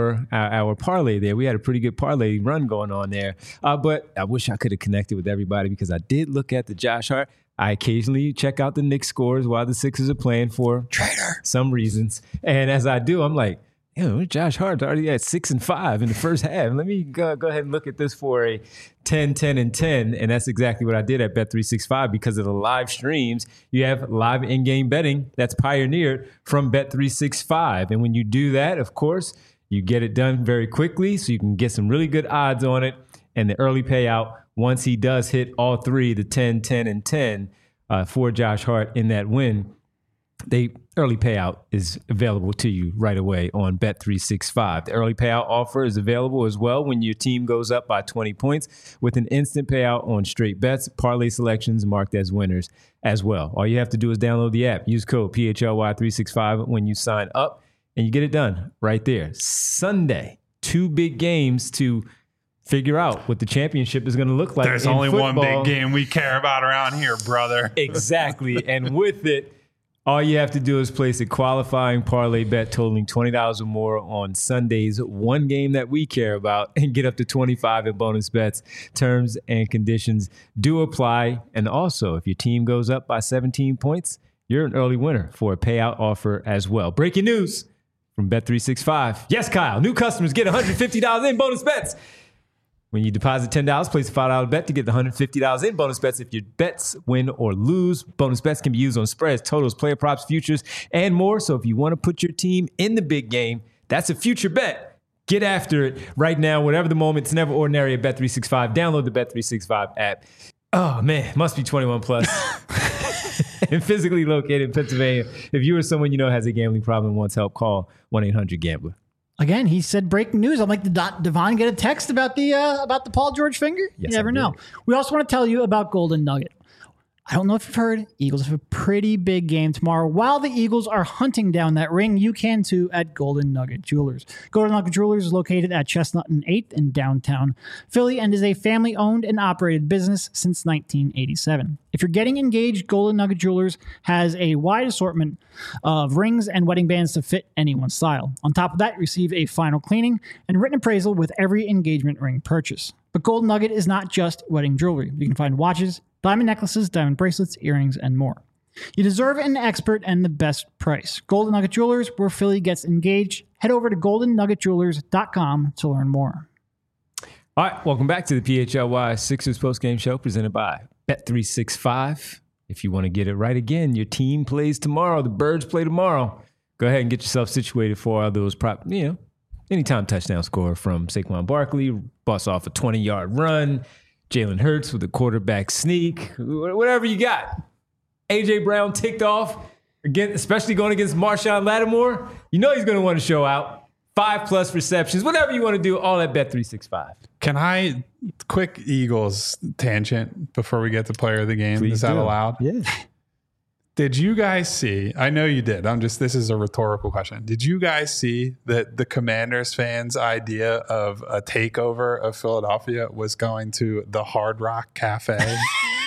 our parlay there. We had a pretty good parlay run going on there. But I wish I could have connected with everybody because I did look at the Josh Hart. I occasionally check out the Knicks scores while the Sixers are playing for some reasons. And as I do, I'm like, Josh Hart's already at 6-5 in the first half. Let me go ahead and look at this for a 10-10-10. And that's exactly what I did at Bet365 because of the live streams. You have live in-game betting that's pioneered from Bet365. And when you do that, of course, you get it done very quickly so you can get some really good odds on it. And the early payout, once he does hit all three, the 10, 10, and 10 for Josh Hart in that win, the early payout is available to you right away on Bet365. The early payout offer is available as well when your team goes up by 20 points with an instant payout on straight bets, parlay selections marked as winners as well. All you have to do is download the app. Use code PHLY365 when you sign up, and you get it done right there. Sunday, 2 big games to figure out what the championship is going to look like. There's only football. One big game we care about around here, brother. Exactly. And with it, all you have to do is place a qualifying parlay bet totaling $20 or more on Sunday's one game that we care about and get up to 25 in bonus bets. Terms and conditions do apply. And also, if your team goes up by 17 points, you're an early winner for a payout offer as well. Breaking news from Bet365. Yes, Kyle, new customers get $150 in bonus bets. When you deposit $10, place a $5 bet to get the $150 in bonus bets if your bets win or lose. Bonus bets can be used on spreads, totals, player props, futures, and more. So if you want to put your team in the big game, that's a future bet. Get after it right now. Whatever the moment, it's never ordinary at Bet365. Download the Bet365 app. Oh, man, must be 21 plus. And physically located in Pennsylvania. If you or someone you know has a gambling problem and wants help, call 1-800-GAMBLER. Again, he said breaking news. I'm like, did Devon get a text about the Paul George finger? Yes, you never know. We also want to tell you about Golden Nugget. I don't know if you've heard, Eagles have a pretty big game tomorrow. While the Eagles are hunting down that ring, you can too at Golden Nugget Jewelers. Golden Nugget Jewelers is located at Chestnut and 8th in downtown Philly and is a family-owned and operated business since 1987. If you're getting engaged, Golden Nugget Jewelers has a wide assortment of rings and wedding bands to fit anyone's style. On top of that, receive a final cleaning and written appraisal with every engagement ring purchase. But Golden Nugget is not just wedding jewelry. You can find watches, diamond necklaces, diamond bracelets, earrings, and more. You deserve an expert and the best price. Golden Nugget Jewelers, where Philly gets engaged. Head over to goldennuggetjewelers.com to learn more. All right, welcome back to the PHLY Sixers postgame show presented by Bet365. If you want to get it right again, your team plays tomorrow. The Birds play tomorrow. Go ahead and get yourself situated for all those anytime touchdown score from Saquon Barkley, bust off a 20-yard run, Jalen Hurts with a quarterback sneak, whatever you got. A.J. Brown ticked off, again, especially going against Marshawn Lattimore. You know he's going to want to show out. 5+ receptions, whatever you want to do, all at Bet365. Can I, quick Eagles tangent before we get to player of the game? Please is that do. allowed? Yeah. Did you guys see, I know you did, this is a rhetorical question. Did you guys see that the Commanders fans' idea of a takeover of Philadelphia was going to the Hard Rock Cafe?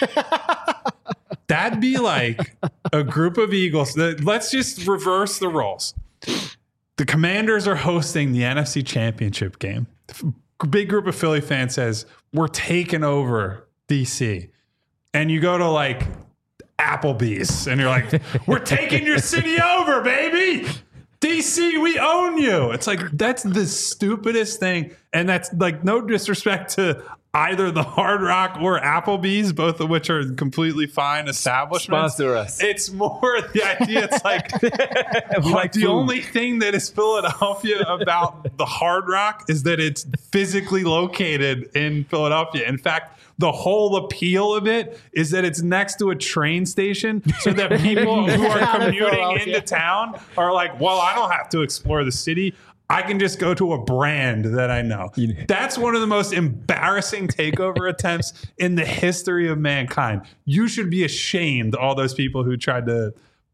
That'd be like a group of Eagles. Let's just reverse the roles. The Commanders are hosting the NFC Championship game. A big group of Philly fans says, we're taking over DC. And you go to like Applebee's and you're like, we're taking your city over, baby. DC, we own you. It's like, that's the stupidest thing. And that's like no disrespect to either the Hard Rock or Applebee's, both of which are completely fine establishments. Sponsor us. It's more the idea. It's like the only thing that is Philadelphia about the Hard Rock is that it's physically located in Philadelphia. In fact, the whole appeal of it is that it's next to a train station so that people who are commuting into town are like, well, I don't have to explore the city. I can just go to a brand that I know. That's one of the most embarrassing takeover attempts in the history of mankind. You should be ashamed, all those people who tried to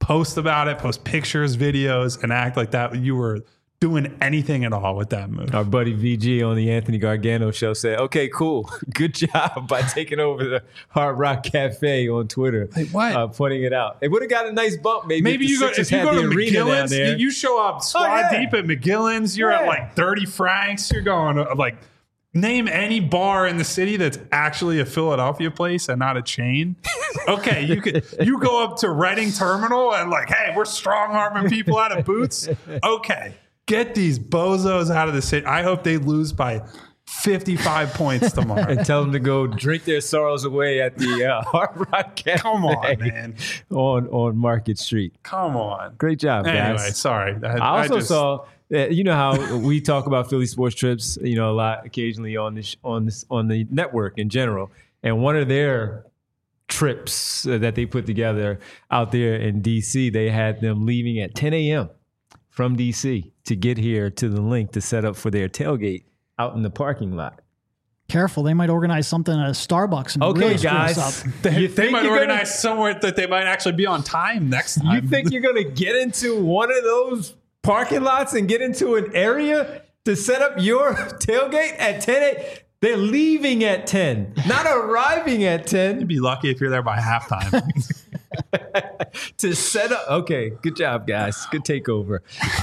post about it, post pictures, videos, and act like that you were doing anything at all with that move. Our buddy VG on the Anthony Gargano show said, okay, cool. Good job by taking over the Hard Rock Cafe on Twitter. Like what? Pointing it out. It would have got a nice bump maybe if you go to McGillen's, you show up squad deep at McGillen's, you're at like 30 francs, you're going like, name any bar in the city that's actually a Philadelphia place and not a chain. Okay, you go up to Reading Terminal and like, hey, we're strong-arming people out of boots. Okay, get these bozos out of the city. I hope they lose by 55 points tomorrow. And tell them to go drink their sorrows away at the Hard Rock Cafe. Come on, man. On Market Street. Come on. Great job, guys. Anyway, sorry. I also saw... You know how we talk about Philly sports trips, a lot occasionally on the network in general. And one of their trips that they put together out there in DC, they had them leaving at 10 a.m. from DC to get here to the link to set up for their tailgate out in the parking lot. Careful, they might organize something at a Starbucks. And okay, really guys, us up. They might organize somewhere that they might actually be on time next time. You think you're going to get into one of those parking lots and get into an area to set up your tailgate at 10 a.m.? They're leaving at 10, not arriving at 10. You'd be lucky if you're there by halftime. To set up. Okay, good job, guys. Good takeover.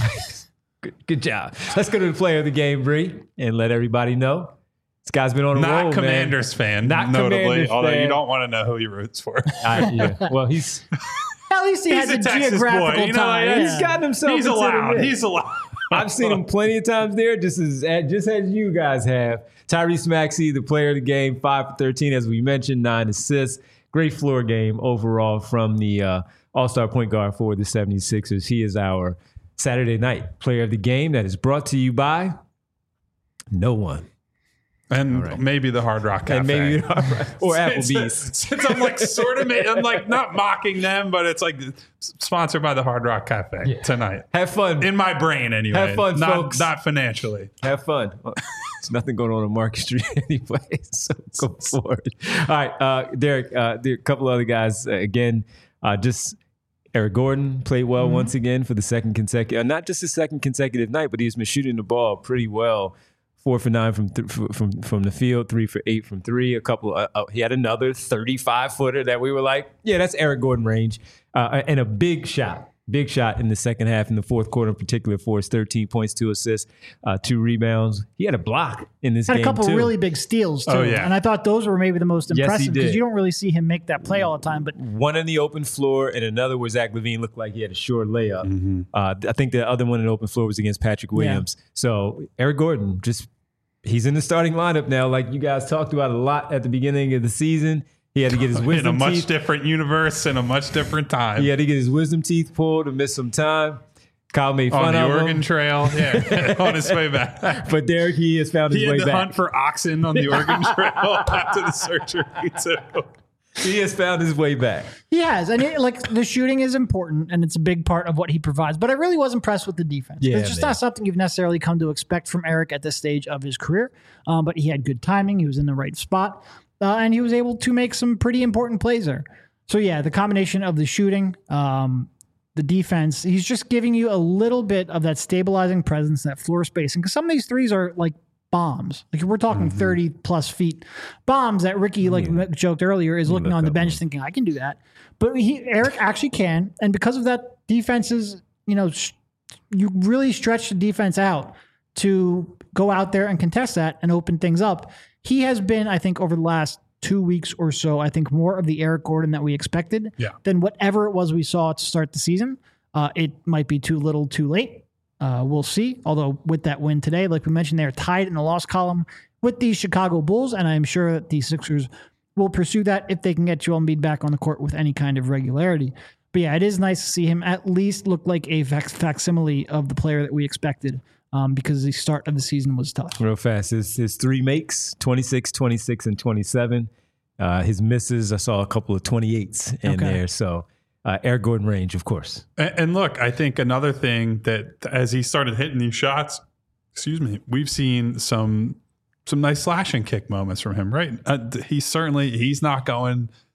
Good job. Let's go to the player of the game, Bree, and let everybody know. This guy's been on a roll, Not Commanders fan, Not notably, Commanders although fan. you don't want to know who he roots for. Yeah. Well, he's... At least he has a Texas geographical boy. tie. He's gotten himself He's into the allowed. mix. He's allowed. I've seen him plenty of times there, just as you guys have. Tyrese Maxey, the player of the game, 5 for 13, as we mentioned, 9 assists. Great floor game overall from the all-star point guard for the 76ers. He is our Saturday night player of the game that is brought to you by no one. And maybe the Hard Rock Cafe. And maybe or Applebee's. Since I'm like I'm like not mocking them, but it's like sponsored by the Hard Rock Cafe tonight. Have fun. In my brain, anyway. Have fun, folks. Not financially. Have fun. There's nothing going on Market Street anyway, so go forward. All right, Derek, there are a couple other guys. Again, just Eric Gordon played well once again for the second consecutive, not just his second consecutive night, but he was shooting the ball pretty well. 4 for 9 from the field, 3 for 8 from three. He had another 35-footer that we were like, yeah, that's Eric Gordon range, and a big shot in the second half, in the fourth quarter in particular, for his 13 points, 2 assists, 2 rebounds. He had a block in this game, had a couple too. really big steals, too. Oh, yeah. And I thought those were maybe the most impressive because did. you don't really see him make that play all the time. But one in the open floor and another where Zach LaVine looked like he had a short layup. I think the other one in the open floor was against Patrick Williams. Yeah. So Eric Gordon, he's in the starting lineup now, like you guys talked about a lot at the beginning of the season. He had to get his wisdom teeth. In a much different universe and a much different time. He had to get his wisdom teeth pulled and miss some time. Kyle made fun of him. On the Oregon Trail, on his way back. But Derek, he has found his way back. He had to hunt for oxen on the Oregon Trail after the surgery. He has found his way back. He has. And the shooting is important, and it's a big part of what he provides. But I really was impressed with the defense. Yeah, it's just not something you've necessarily come to expect from Eric at this stage of his career. But he had good timing. He was in the right spot. And he was able to make some pretty important plays there. So, yeah, the combination of the shooting, the defense, he's just giving you a little bit of that stabilizing presence, that floor spacing. Because some of these threes are like bombs. Like, we're talking 30-plus feet bombs that Ricky, joked earlier, is looking on the bench thinking, I can do that. But Eric actually can. And because of that, defenses, you really stretch the defense out to go out there and contest that and open things up. He has been, I think, over the last 2 weeks or so, I think more of the Eric Gordon that we expected than whatever it was we saw to start the season. It might be too little, too late. We'll see. Although with that win today, like we mentioned, they're tied in the loss column with the Chicago Bulls, and I'm sure that the Sixers will pursue that if they can get Joel Embiid back on the court with any kind of regularity. But yeah, it is nice to see him at least look like a facsimile of the player that we expected. Because the start of the season was tough. Real fast. His 3 makes, 26, 26, and 27. His misses, I saw a couple of 28s in there. So Eric Gordon range, of course. And look, I think another thing that as he started hitting these shots, we've seen some nice slash and kick moments from him, right? He's not going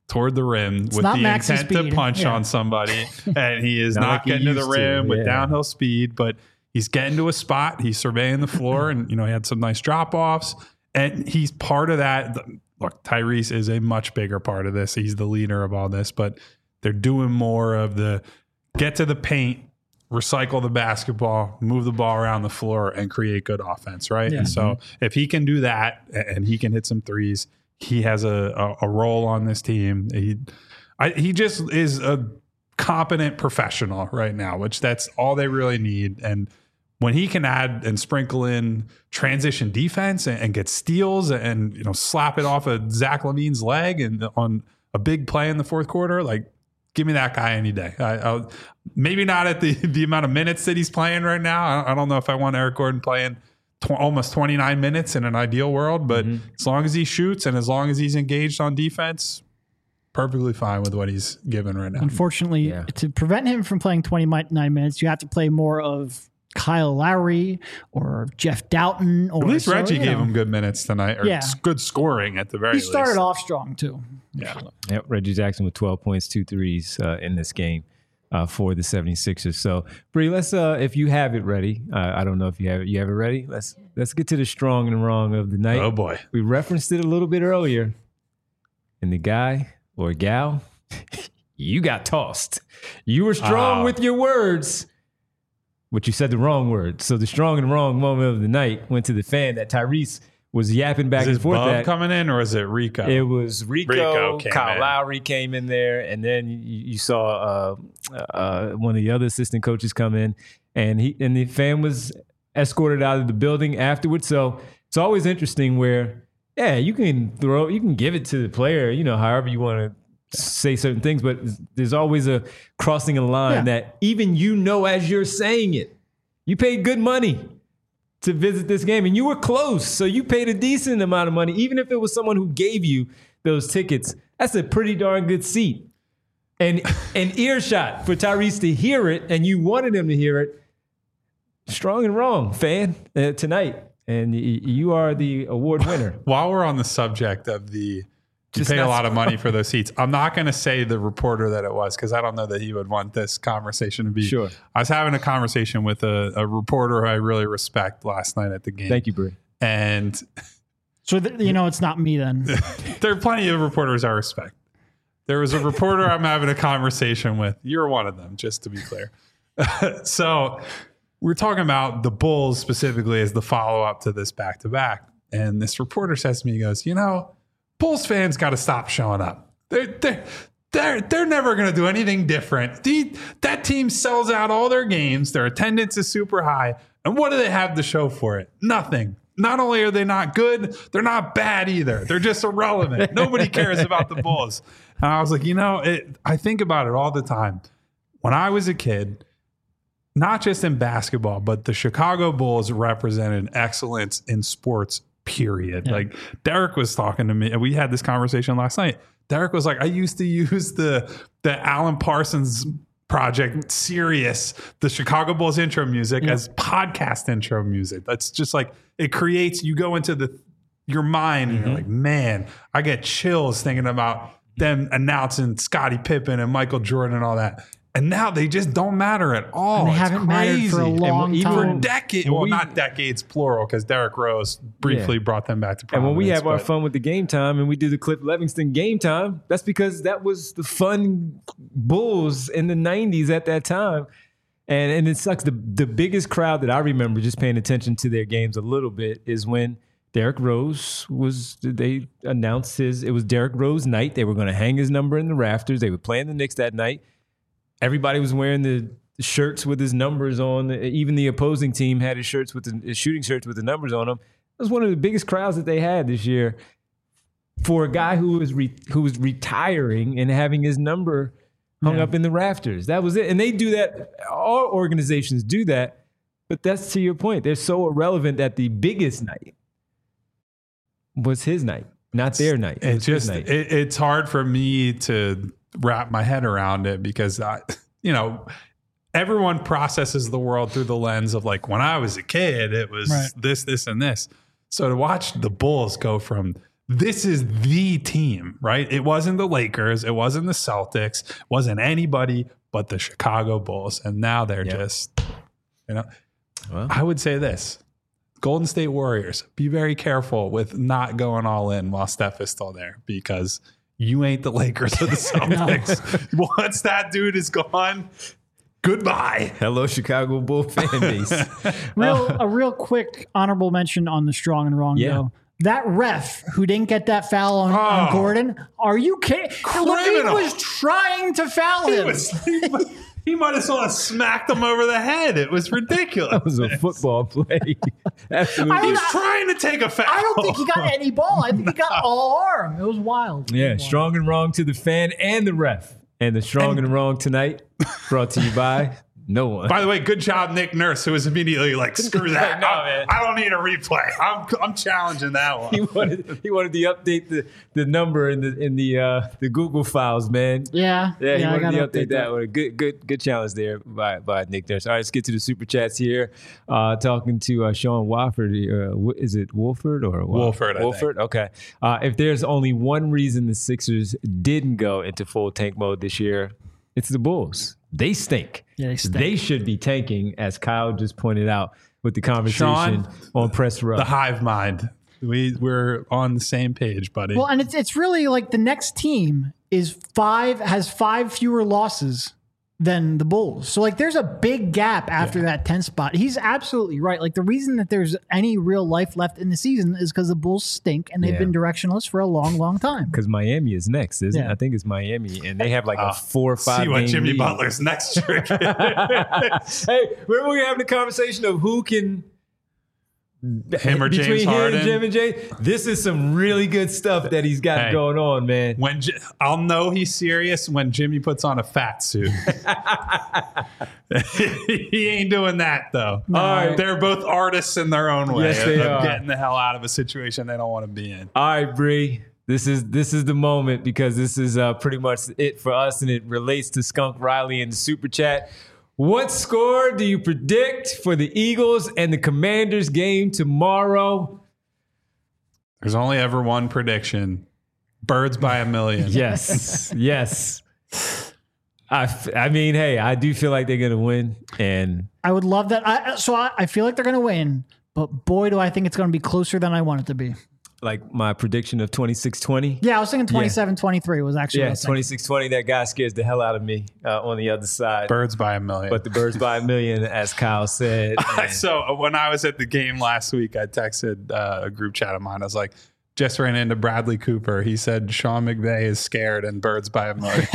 toward the rim with the intent to punch on somebody, and he is not getting to the rim with downhill speed, but he's getting to a spot. He's surveying the floor, and he had some nice drop-offs, and he's part of that. Look, Tyrese is a much bigger part of this. He's the leader of all this, but they're doing more of the get to the paint, recycle the basketball, move the ball around the floor, and create good offense, right? Yeah. And so if he can do that and he can hit some threes, he has a role on this team. He just is a competent professional right now, which that's all they really need. And when he can add and sprinkle in transition defense and get steals and slap it off of Zach LaVine's leg and on a big play in the fourth quarter, like give me that guy any day. I'll, maybe not at the amount of minutes that he's playing right now. I don't know if I want Eric Gordon playing almost 29 minutes in an ideal world, but as long as he shoots and as long as he's engaged on defense, perfectly fine with what he's given right now. Unfortunately, to prevent him from playing 29 minutes, you have to play more of Kyle Lowry or Jeff Doughton. Or at least Reggie gave him good minutes tonight, or good scoring at the very least. He started off strong too. Yeah. Yep. Reggie Jackson with 12 points, 2 threes in this game for the 76ers. So, Bree, let's if you have it ready. I don't know if you have it ready. Let's get to the strong and wrong of the night. Oh boy. We referenced it a little bit earlier. And the guy or gal, you got tossed. You were strong with your words, but you said the wrong word. So the strong and wrong moment of the night went to the fan that Tyrese was yapping back and forth. Is coming in, or is it Rico? It was Rico. Kyle Lowry came in there, and then you saw one of the other assistant coaches come in, and the fan was escorted out of the building afterwards. So it's always interesting where, you can give it to the player, however you want to say certain things, but there's always a crossing a line that even as you're saying it, you paid good money to visit this game, and you were close, so you paid a decent amount of money, even if it was someone who gave you those tickets. That's a pretty darn good seat, and an earshot for Tyrese to hear it, and you wanted him to hear it. Strong and wrong, fan, tonight, and you are the award winner. While we're on the subject of you pay a lot of money for those seats, I'm not going to say the reporter that it was, because I don't know that he would want this conversation to be. Sure. I was having a conversation with a reporter who I really respect last night at the game. Thank you, Bree. And so, it's not me then. There are plenty of reporters I respect. There was a reporter I'm having a conversation with. You're one of them, just to be clear. So we're talking about the Bulls specifically as the follow-up to this back-to-back. And this reporter says to me, he goes, Bulls fans got to stop showing up. They're never going to do anything different. That team sells out all their games. Their attendance is super high. And what do they have to show for it? Nothing. Not only are they not good, they're not bad either. They're just irrelevant. Nobody cares about the Bulls. And I was like, I think about it all the time. When I was a kid, not just in basketball, but the Chicago Bulls represented excellence in sports, period. Yeah. Like Derek was talking to me, and we had this conversation last night. Derek was like, I used to use the Alan Parsons Project Sirius, the Chicago Bulls intro music as podcast intro music. That's just like, it creates, you go into your mind and you're like, man, I get chills thinking about them announcing Scottie Pippen and Michael Jordan and all that. And now they just don't matter at all. And they haven't mattered for a long time. For decades. Well, not decades, plural, because Derrick Rose briefly brought them back to prominence. And when we have our fun with the Game Time and we do the Cliff Livingston Game Time, that's because that was the fun Bulls in the 90s at that time. And it sucks. The biggest crowd that I remember just paying attention to their games a little bit is when Derrick Rose they announced it was Derrick Rose night. They were going to hang his number in the rafters. They were playing the Knicks that night. Everybody was wearing the shirts with his numbers on. Even the opposing team had his shooting shirts with the numbers on them. It was one of the biggest crowds that they had this year for a guy who was retiring and having his number hung up in the rafters. That was it. And they do that. All organizations do that. But that's to your point. They're so irrelevant that the biggest night was his night, not their night. It's hard for me to wrap my head around it because everyone processes the world through the lens of like, when I was a kid, it was this, and this. So to watch the Bulls go from this is the team, right? It wasn't the Lakers. It wasn't the Celtics. It wasn't anybody but the Chicago Bulls. And now they're just, I would say this. Golden State Warriors, be very careful with not going all in while Steph is still there, because you ain't the Lakers or the Celtics. Once that dude is gone, goodbye. Hello, Chicago Bull fan base. A real quick honorable mention on the strong and wrong, though. That ref who didn't get that foul on Gordon, are you kidding? LaVine was trying to foul him. He might as well have smacked him over the head. It was ridiculous. That was a football play. Absolutely. He was trying to take a foul. I don't think he got any ball. I think he got all arm. It was wild. Yeah, strong and wrong to the fan and the ref. And the strong and wrong tonight brought to you by no one. By the way, good job, Nick Nurse, who was immediately like, screw that. No, man. I don't need a replay. I'm challenging that one. He wanted to update the number in the Google files, man. Yeah. He wanted to update that one. Good challenge there by Nick Nurse. All right, let's get to the super chats here. Talking to Sean Wofford. Is it Wolford or Wolford? Wolford. Okay. If there's only one reason the Sixers didn't go into full tank mode this year, it's the Bulls. They stink. Yeah, they stink. They should be tanking, as Kyle just pointed out with the conversation Sean, on Press Row. The hive mind. We're on the same page, buddy. Well, and it's really like the next team has 5 fewer losses than the Bulls. So like there's a big gap after that 10th spot. He's absolutely right. Like the reason that there's any real life left in the season is because the Bulls stink and they've been directionless for a long, long time. Because Miami is next, isn't it? I think it's Miami. And they have like a 4 or 5 see what game Jimmy lead. Butler's next trick. Hey, remember we were having the conversation of who can him or James Harden. Jim and Jay. This is some really good stuff that he's got going on, man. When I'll know he's serious when Jimmy puts on a fat suit. He ain't doing that though. No. All right, they're both artists in their own way. Yes, they are. Getting the hell out of a situation they don't want to be in. All right, Bree. This is the moment, because this is pretty much it for us, and it relates to Skunk Riley in the super chat. What score do you predict for the Eagles and the Commanders game tomorrow? There's only ever one prediction. Birds by a million. Yes. Yes. I mean, hey, I do feel like they're going to win. And I would love that. I feel like they're going to win, but boy, do I think it's going to be closer than I want it to be. like my prediction of 26-20. Yeah, I was thinking 27-23 was actually. Yeah, 26-20. That guy scares the hell out of me on the other side. Birds by a million. But the birds by a million, as Kyle said. So when I was at the game last week, I texted a group chat of mine. I was like, just ran into Bradley Cooper. He said Sean McVay is scared and birds by a million.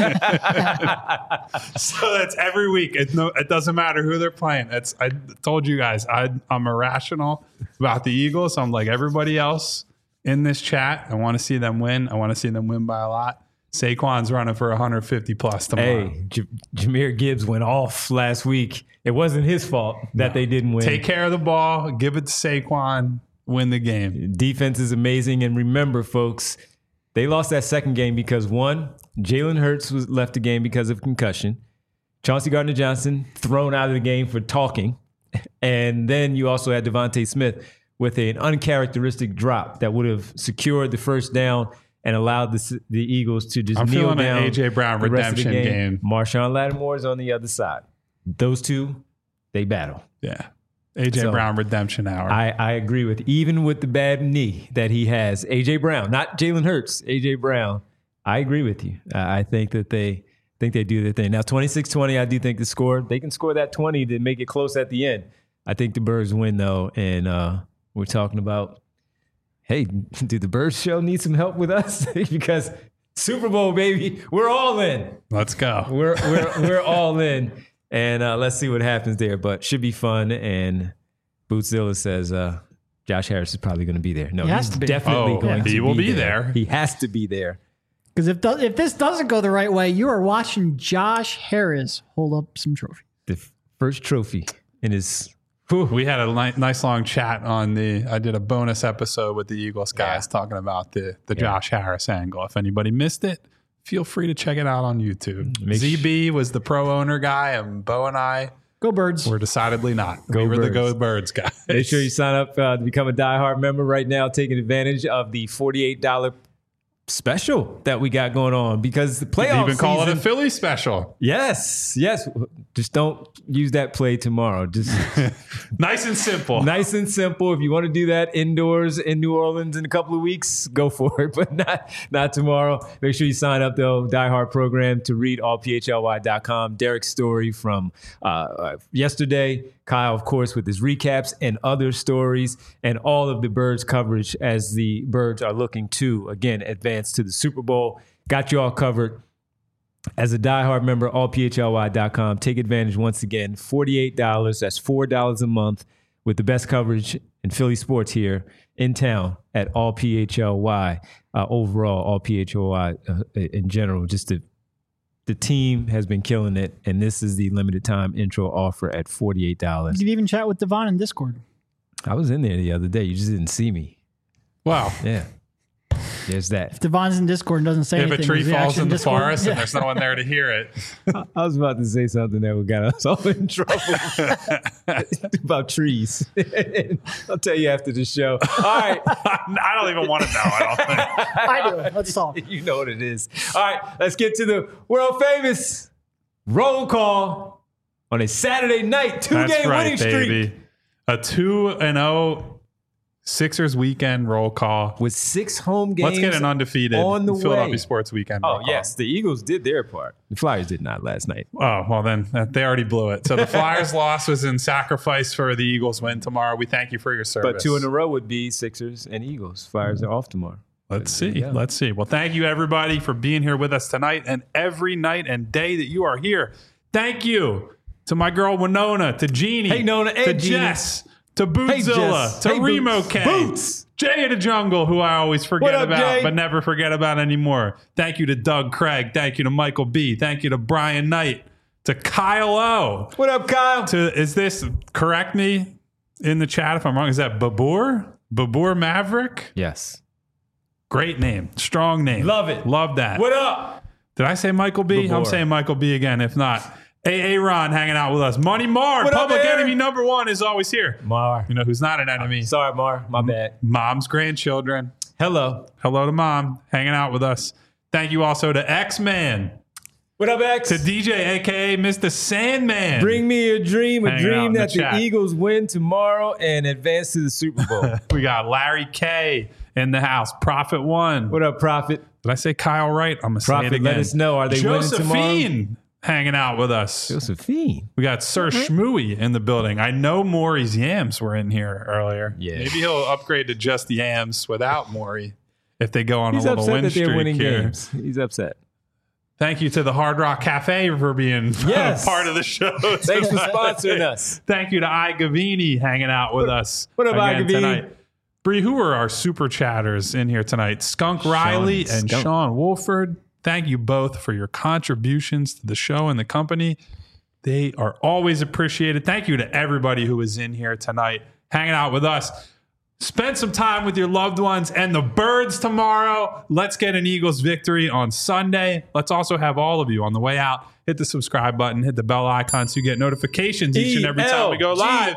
So that's every week. It doesn't matter who they're playing. I told you guys, I'm irrational about the Eagles. I'm like everybody else in this chat. I want to see them win. I want to see them win by a lot. Saquon's running for 150 plus tomorrow. Hey, Jahmyr Gibbs went off last week. It wasn't his fault that they didn't win. Take care of the ball. Give it to Saquon. Win the game. Defense is amazing. And remember, folks, they lost that second game because, one, Jalen Hurts was left the game because of concussion. Chauncey Gardner-Johnson thrown out of the game for talking. And then you also had Devontae Smith with an uncharacteristic drop that would have secured the first down and allowed the Eagles to just kneel down. I'm feeling an A.J. Brown redemption game. Marshawn Lattimore is on the other side. Those two, they battle. Yeah. A.J. Brown redemption hour. I agree with, even with the bad knee that he has. A.J. Brown, not Jalen Hurts, A.J. Brown. I agree with you. I think that they do their thing. Now, 26-20, I do think the score, they can score that 20 to make it close at the end. I think the Birds win, though, and we're talking about, hey, do the Birds show need some help with us? Because Super Bowl, baby, we're all in. Let's go. We're all in. And let's see what happens there. But should be fun. And Bootzilla says Josh Harris is probably going to be there. No, he's definitely going to be there. He will be there. He has to be there. Because if this doesn't go the right way, you are watching Josh Harris hold up some trophy. The first trophy in his... We had a nice long chat on I did a bonus episode with the Eagles guys talking about the Josh Harris angle. If anybody missed it, feel free to check it out on YouTube. ZB was the pro owner guy, and Bo and I Go Birds. We're decidedly not. Go We're the Birds. Go Birds guys. Make sure you sign up to become a diehard member right now, taking advantage of the $48 special that we got going on because the playoff Even call season, it a Philly special. Yes. Just don't use that play tomorrow. Just Nice and simple. nice and simple. If you want to do that indoors in New Orleans in a couple of weeks, go for it, but not tomorrow. Make sure you sign up, though, diehard program to read allphly.com. Derek's story from yesterday. Kyle, of course, with his recaps and other stories and all of the Birds coverage as the Birds are looking to, again, advance to the Super Bowl. Got you all covered. As a diehard member, allphly.com. Take advantage once again. $48. That's $4 a month with the best coverage in Philly sports here in town at allphly. Overall, allphly in general. Just the team has been killing it, and this is the limited time intro offer at $48. You can even chat with Devon in Discord. I was in there the other day. You just didn't see me. Wow. Yeah. There's that. If Devon's in Discord and doesn't say If anything, a tree is he falls actually in the Discord? forest and there's no one there to hear it. I was about to say something that would get us all in trouble about trees. I'll tell you after the show. All right. I don't even want to know. I don't think. I do. Let's solve. You know what it is. All right. Let's get to the world famous roll call on a Saturday night. Two-game winning streak. Baby. A 2-0 Sixers weekend roll call. With 6 home games. Let's get an undefeated on the Philadelphia way. Sports weekend. Oh, roll call. yes. The Eagles did their part. The Flyers did not last night. Oh, well, then they already blew it. So the Flyers' loss was in sacrifice for the Eagles' win tomorrow. We thank you for your service. But 2 in a row would be Sixers and Eagles. Flyers are off tomorrow. Let's see. Let's see. Well, thank you, everybody, for being here with us tonight and every night and day that you are here. Thank you to my girl Winona, to Jeannie, Hey, Nona, to and Jeannie. Jess, to Bootzilla, Jess. to Hey, Remo Boots. K, Boots. Jay of the Jungle, who I always What forget up, about, Jay? but never forget about anymore. Thank you to Doug Craig. Thank you to Michael B. Thank you to Brian Knight, to Kyle O. What up, Kyle? Is this, correct me in the chat if I'm wrong, is that Babur? Babur Maverick? Yes. Great name. Strong name. Love it. Love that. What up? Did I say Michael B? Babur. I'm saying Michael B again. If not, AA Ron hanging out with us. Money Mar, What up, public Aaron? enemy number 1 is always here. Mar. You know who's not an enemy? Sorry, Mar. My bad. Mom's grandchildren. Hello. Hello to Mom, hanging out with us. Thank you also to X-Man, What up, X? to DJ, a.k.a. Mr. Sandman. Bring me a dream Hanging out in that the chat. the Eagles win tomorrow and advance to the Super Bowl. We got Larry K in the house. Prophet 1. What up, Prophet? Did I say Kyle right? I'm going to say it Prophet, again. let us know. Are they winning tomorrow? Josephine hanging out with us. Josephine. We got Sir Shmooey in the building. I know Maury's yams were in here earlier. Yeah. Maybe he'll upgrade to just the yams without Maury if they go on He's a little upset win that streak they're winning here. games. He's upset. Thank you to the Hard Rock Cafe for being Yes. part of the show. Thanks for tonight. sponsoring us. Thank you to I Gavini hanging out with us. what up, I again Gavini? tonight. Bree, who are our super chatters in here tonight? Skunk Riley and Skunk. Sean Wolford. Thank you both for your contributions to the show and the company. They are always appreciated. Thank you to everybody who is in here tonight, hanging out with us. Spend some time with your loved ones and the Birds tomorrow. Let's get an Eagles victory on Sunday. Let's also have all of you on the way out. Hit the subscribe button, hit the bell icon so you get notifications each and every time we go live.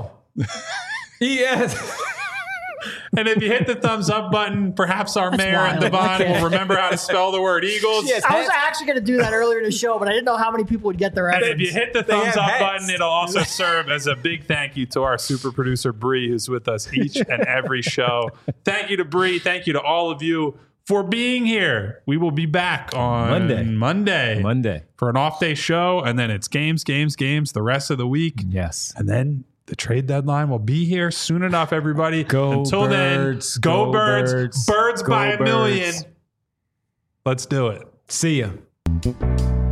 E-L-E-S. And if you hit the thumbs up button, perhaps our mayor and wild. Devon Okay. will remember how to spell the word Eagles. Yes. I was actually going to do that earlier in the show, but I didn't know how many people would get the And reference. if you hit the They thumbs have up hats. button, it'll also serve as a big thank you to our super producer, Bree, who's with us each and every show. Thank you to Bree. Thank you to all of you for being here. We will be back on Monday for an off-day show, and then it's games the rest of the week. Yes. And then the trade deadline will be here soon enough, everybody. Go Until Birds, then, go go Birds. Birds, Birds go by a million. Birds. Let's do it. See ya.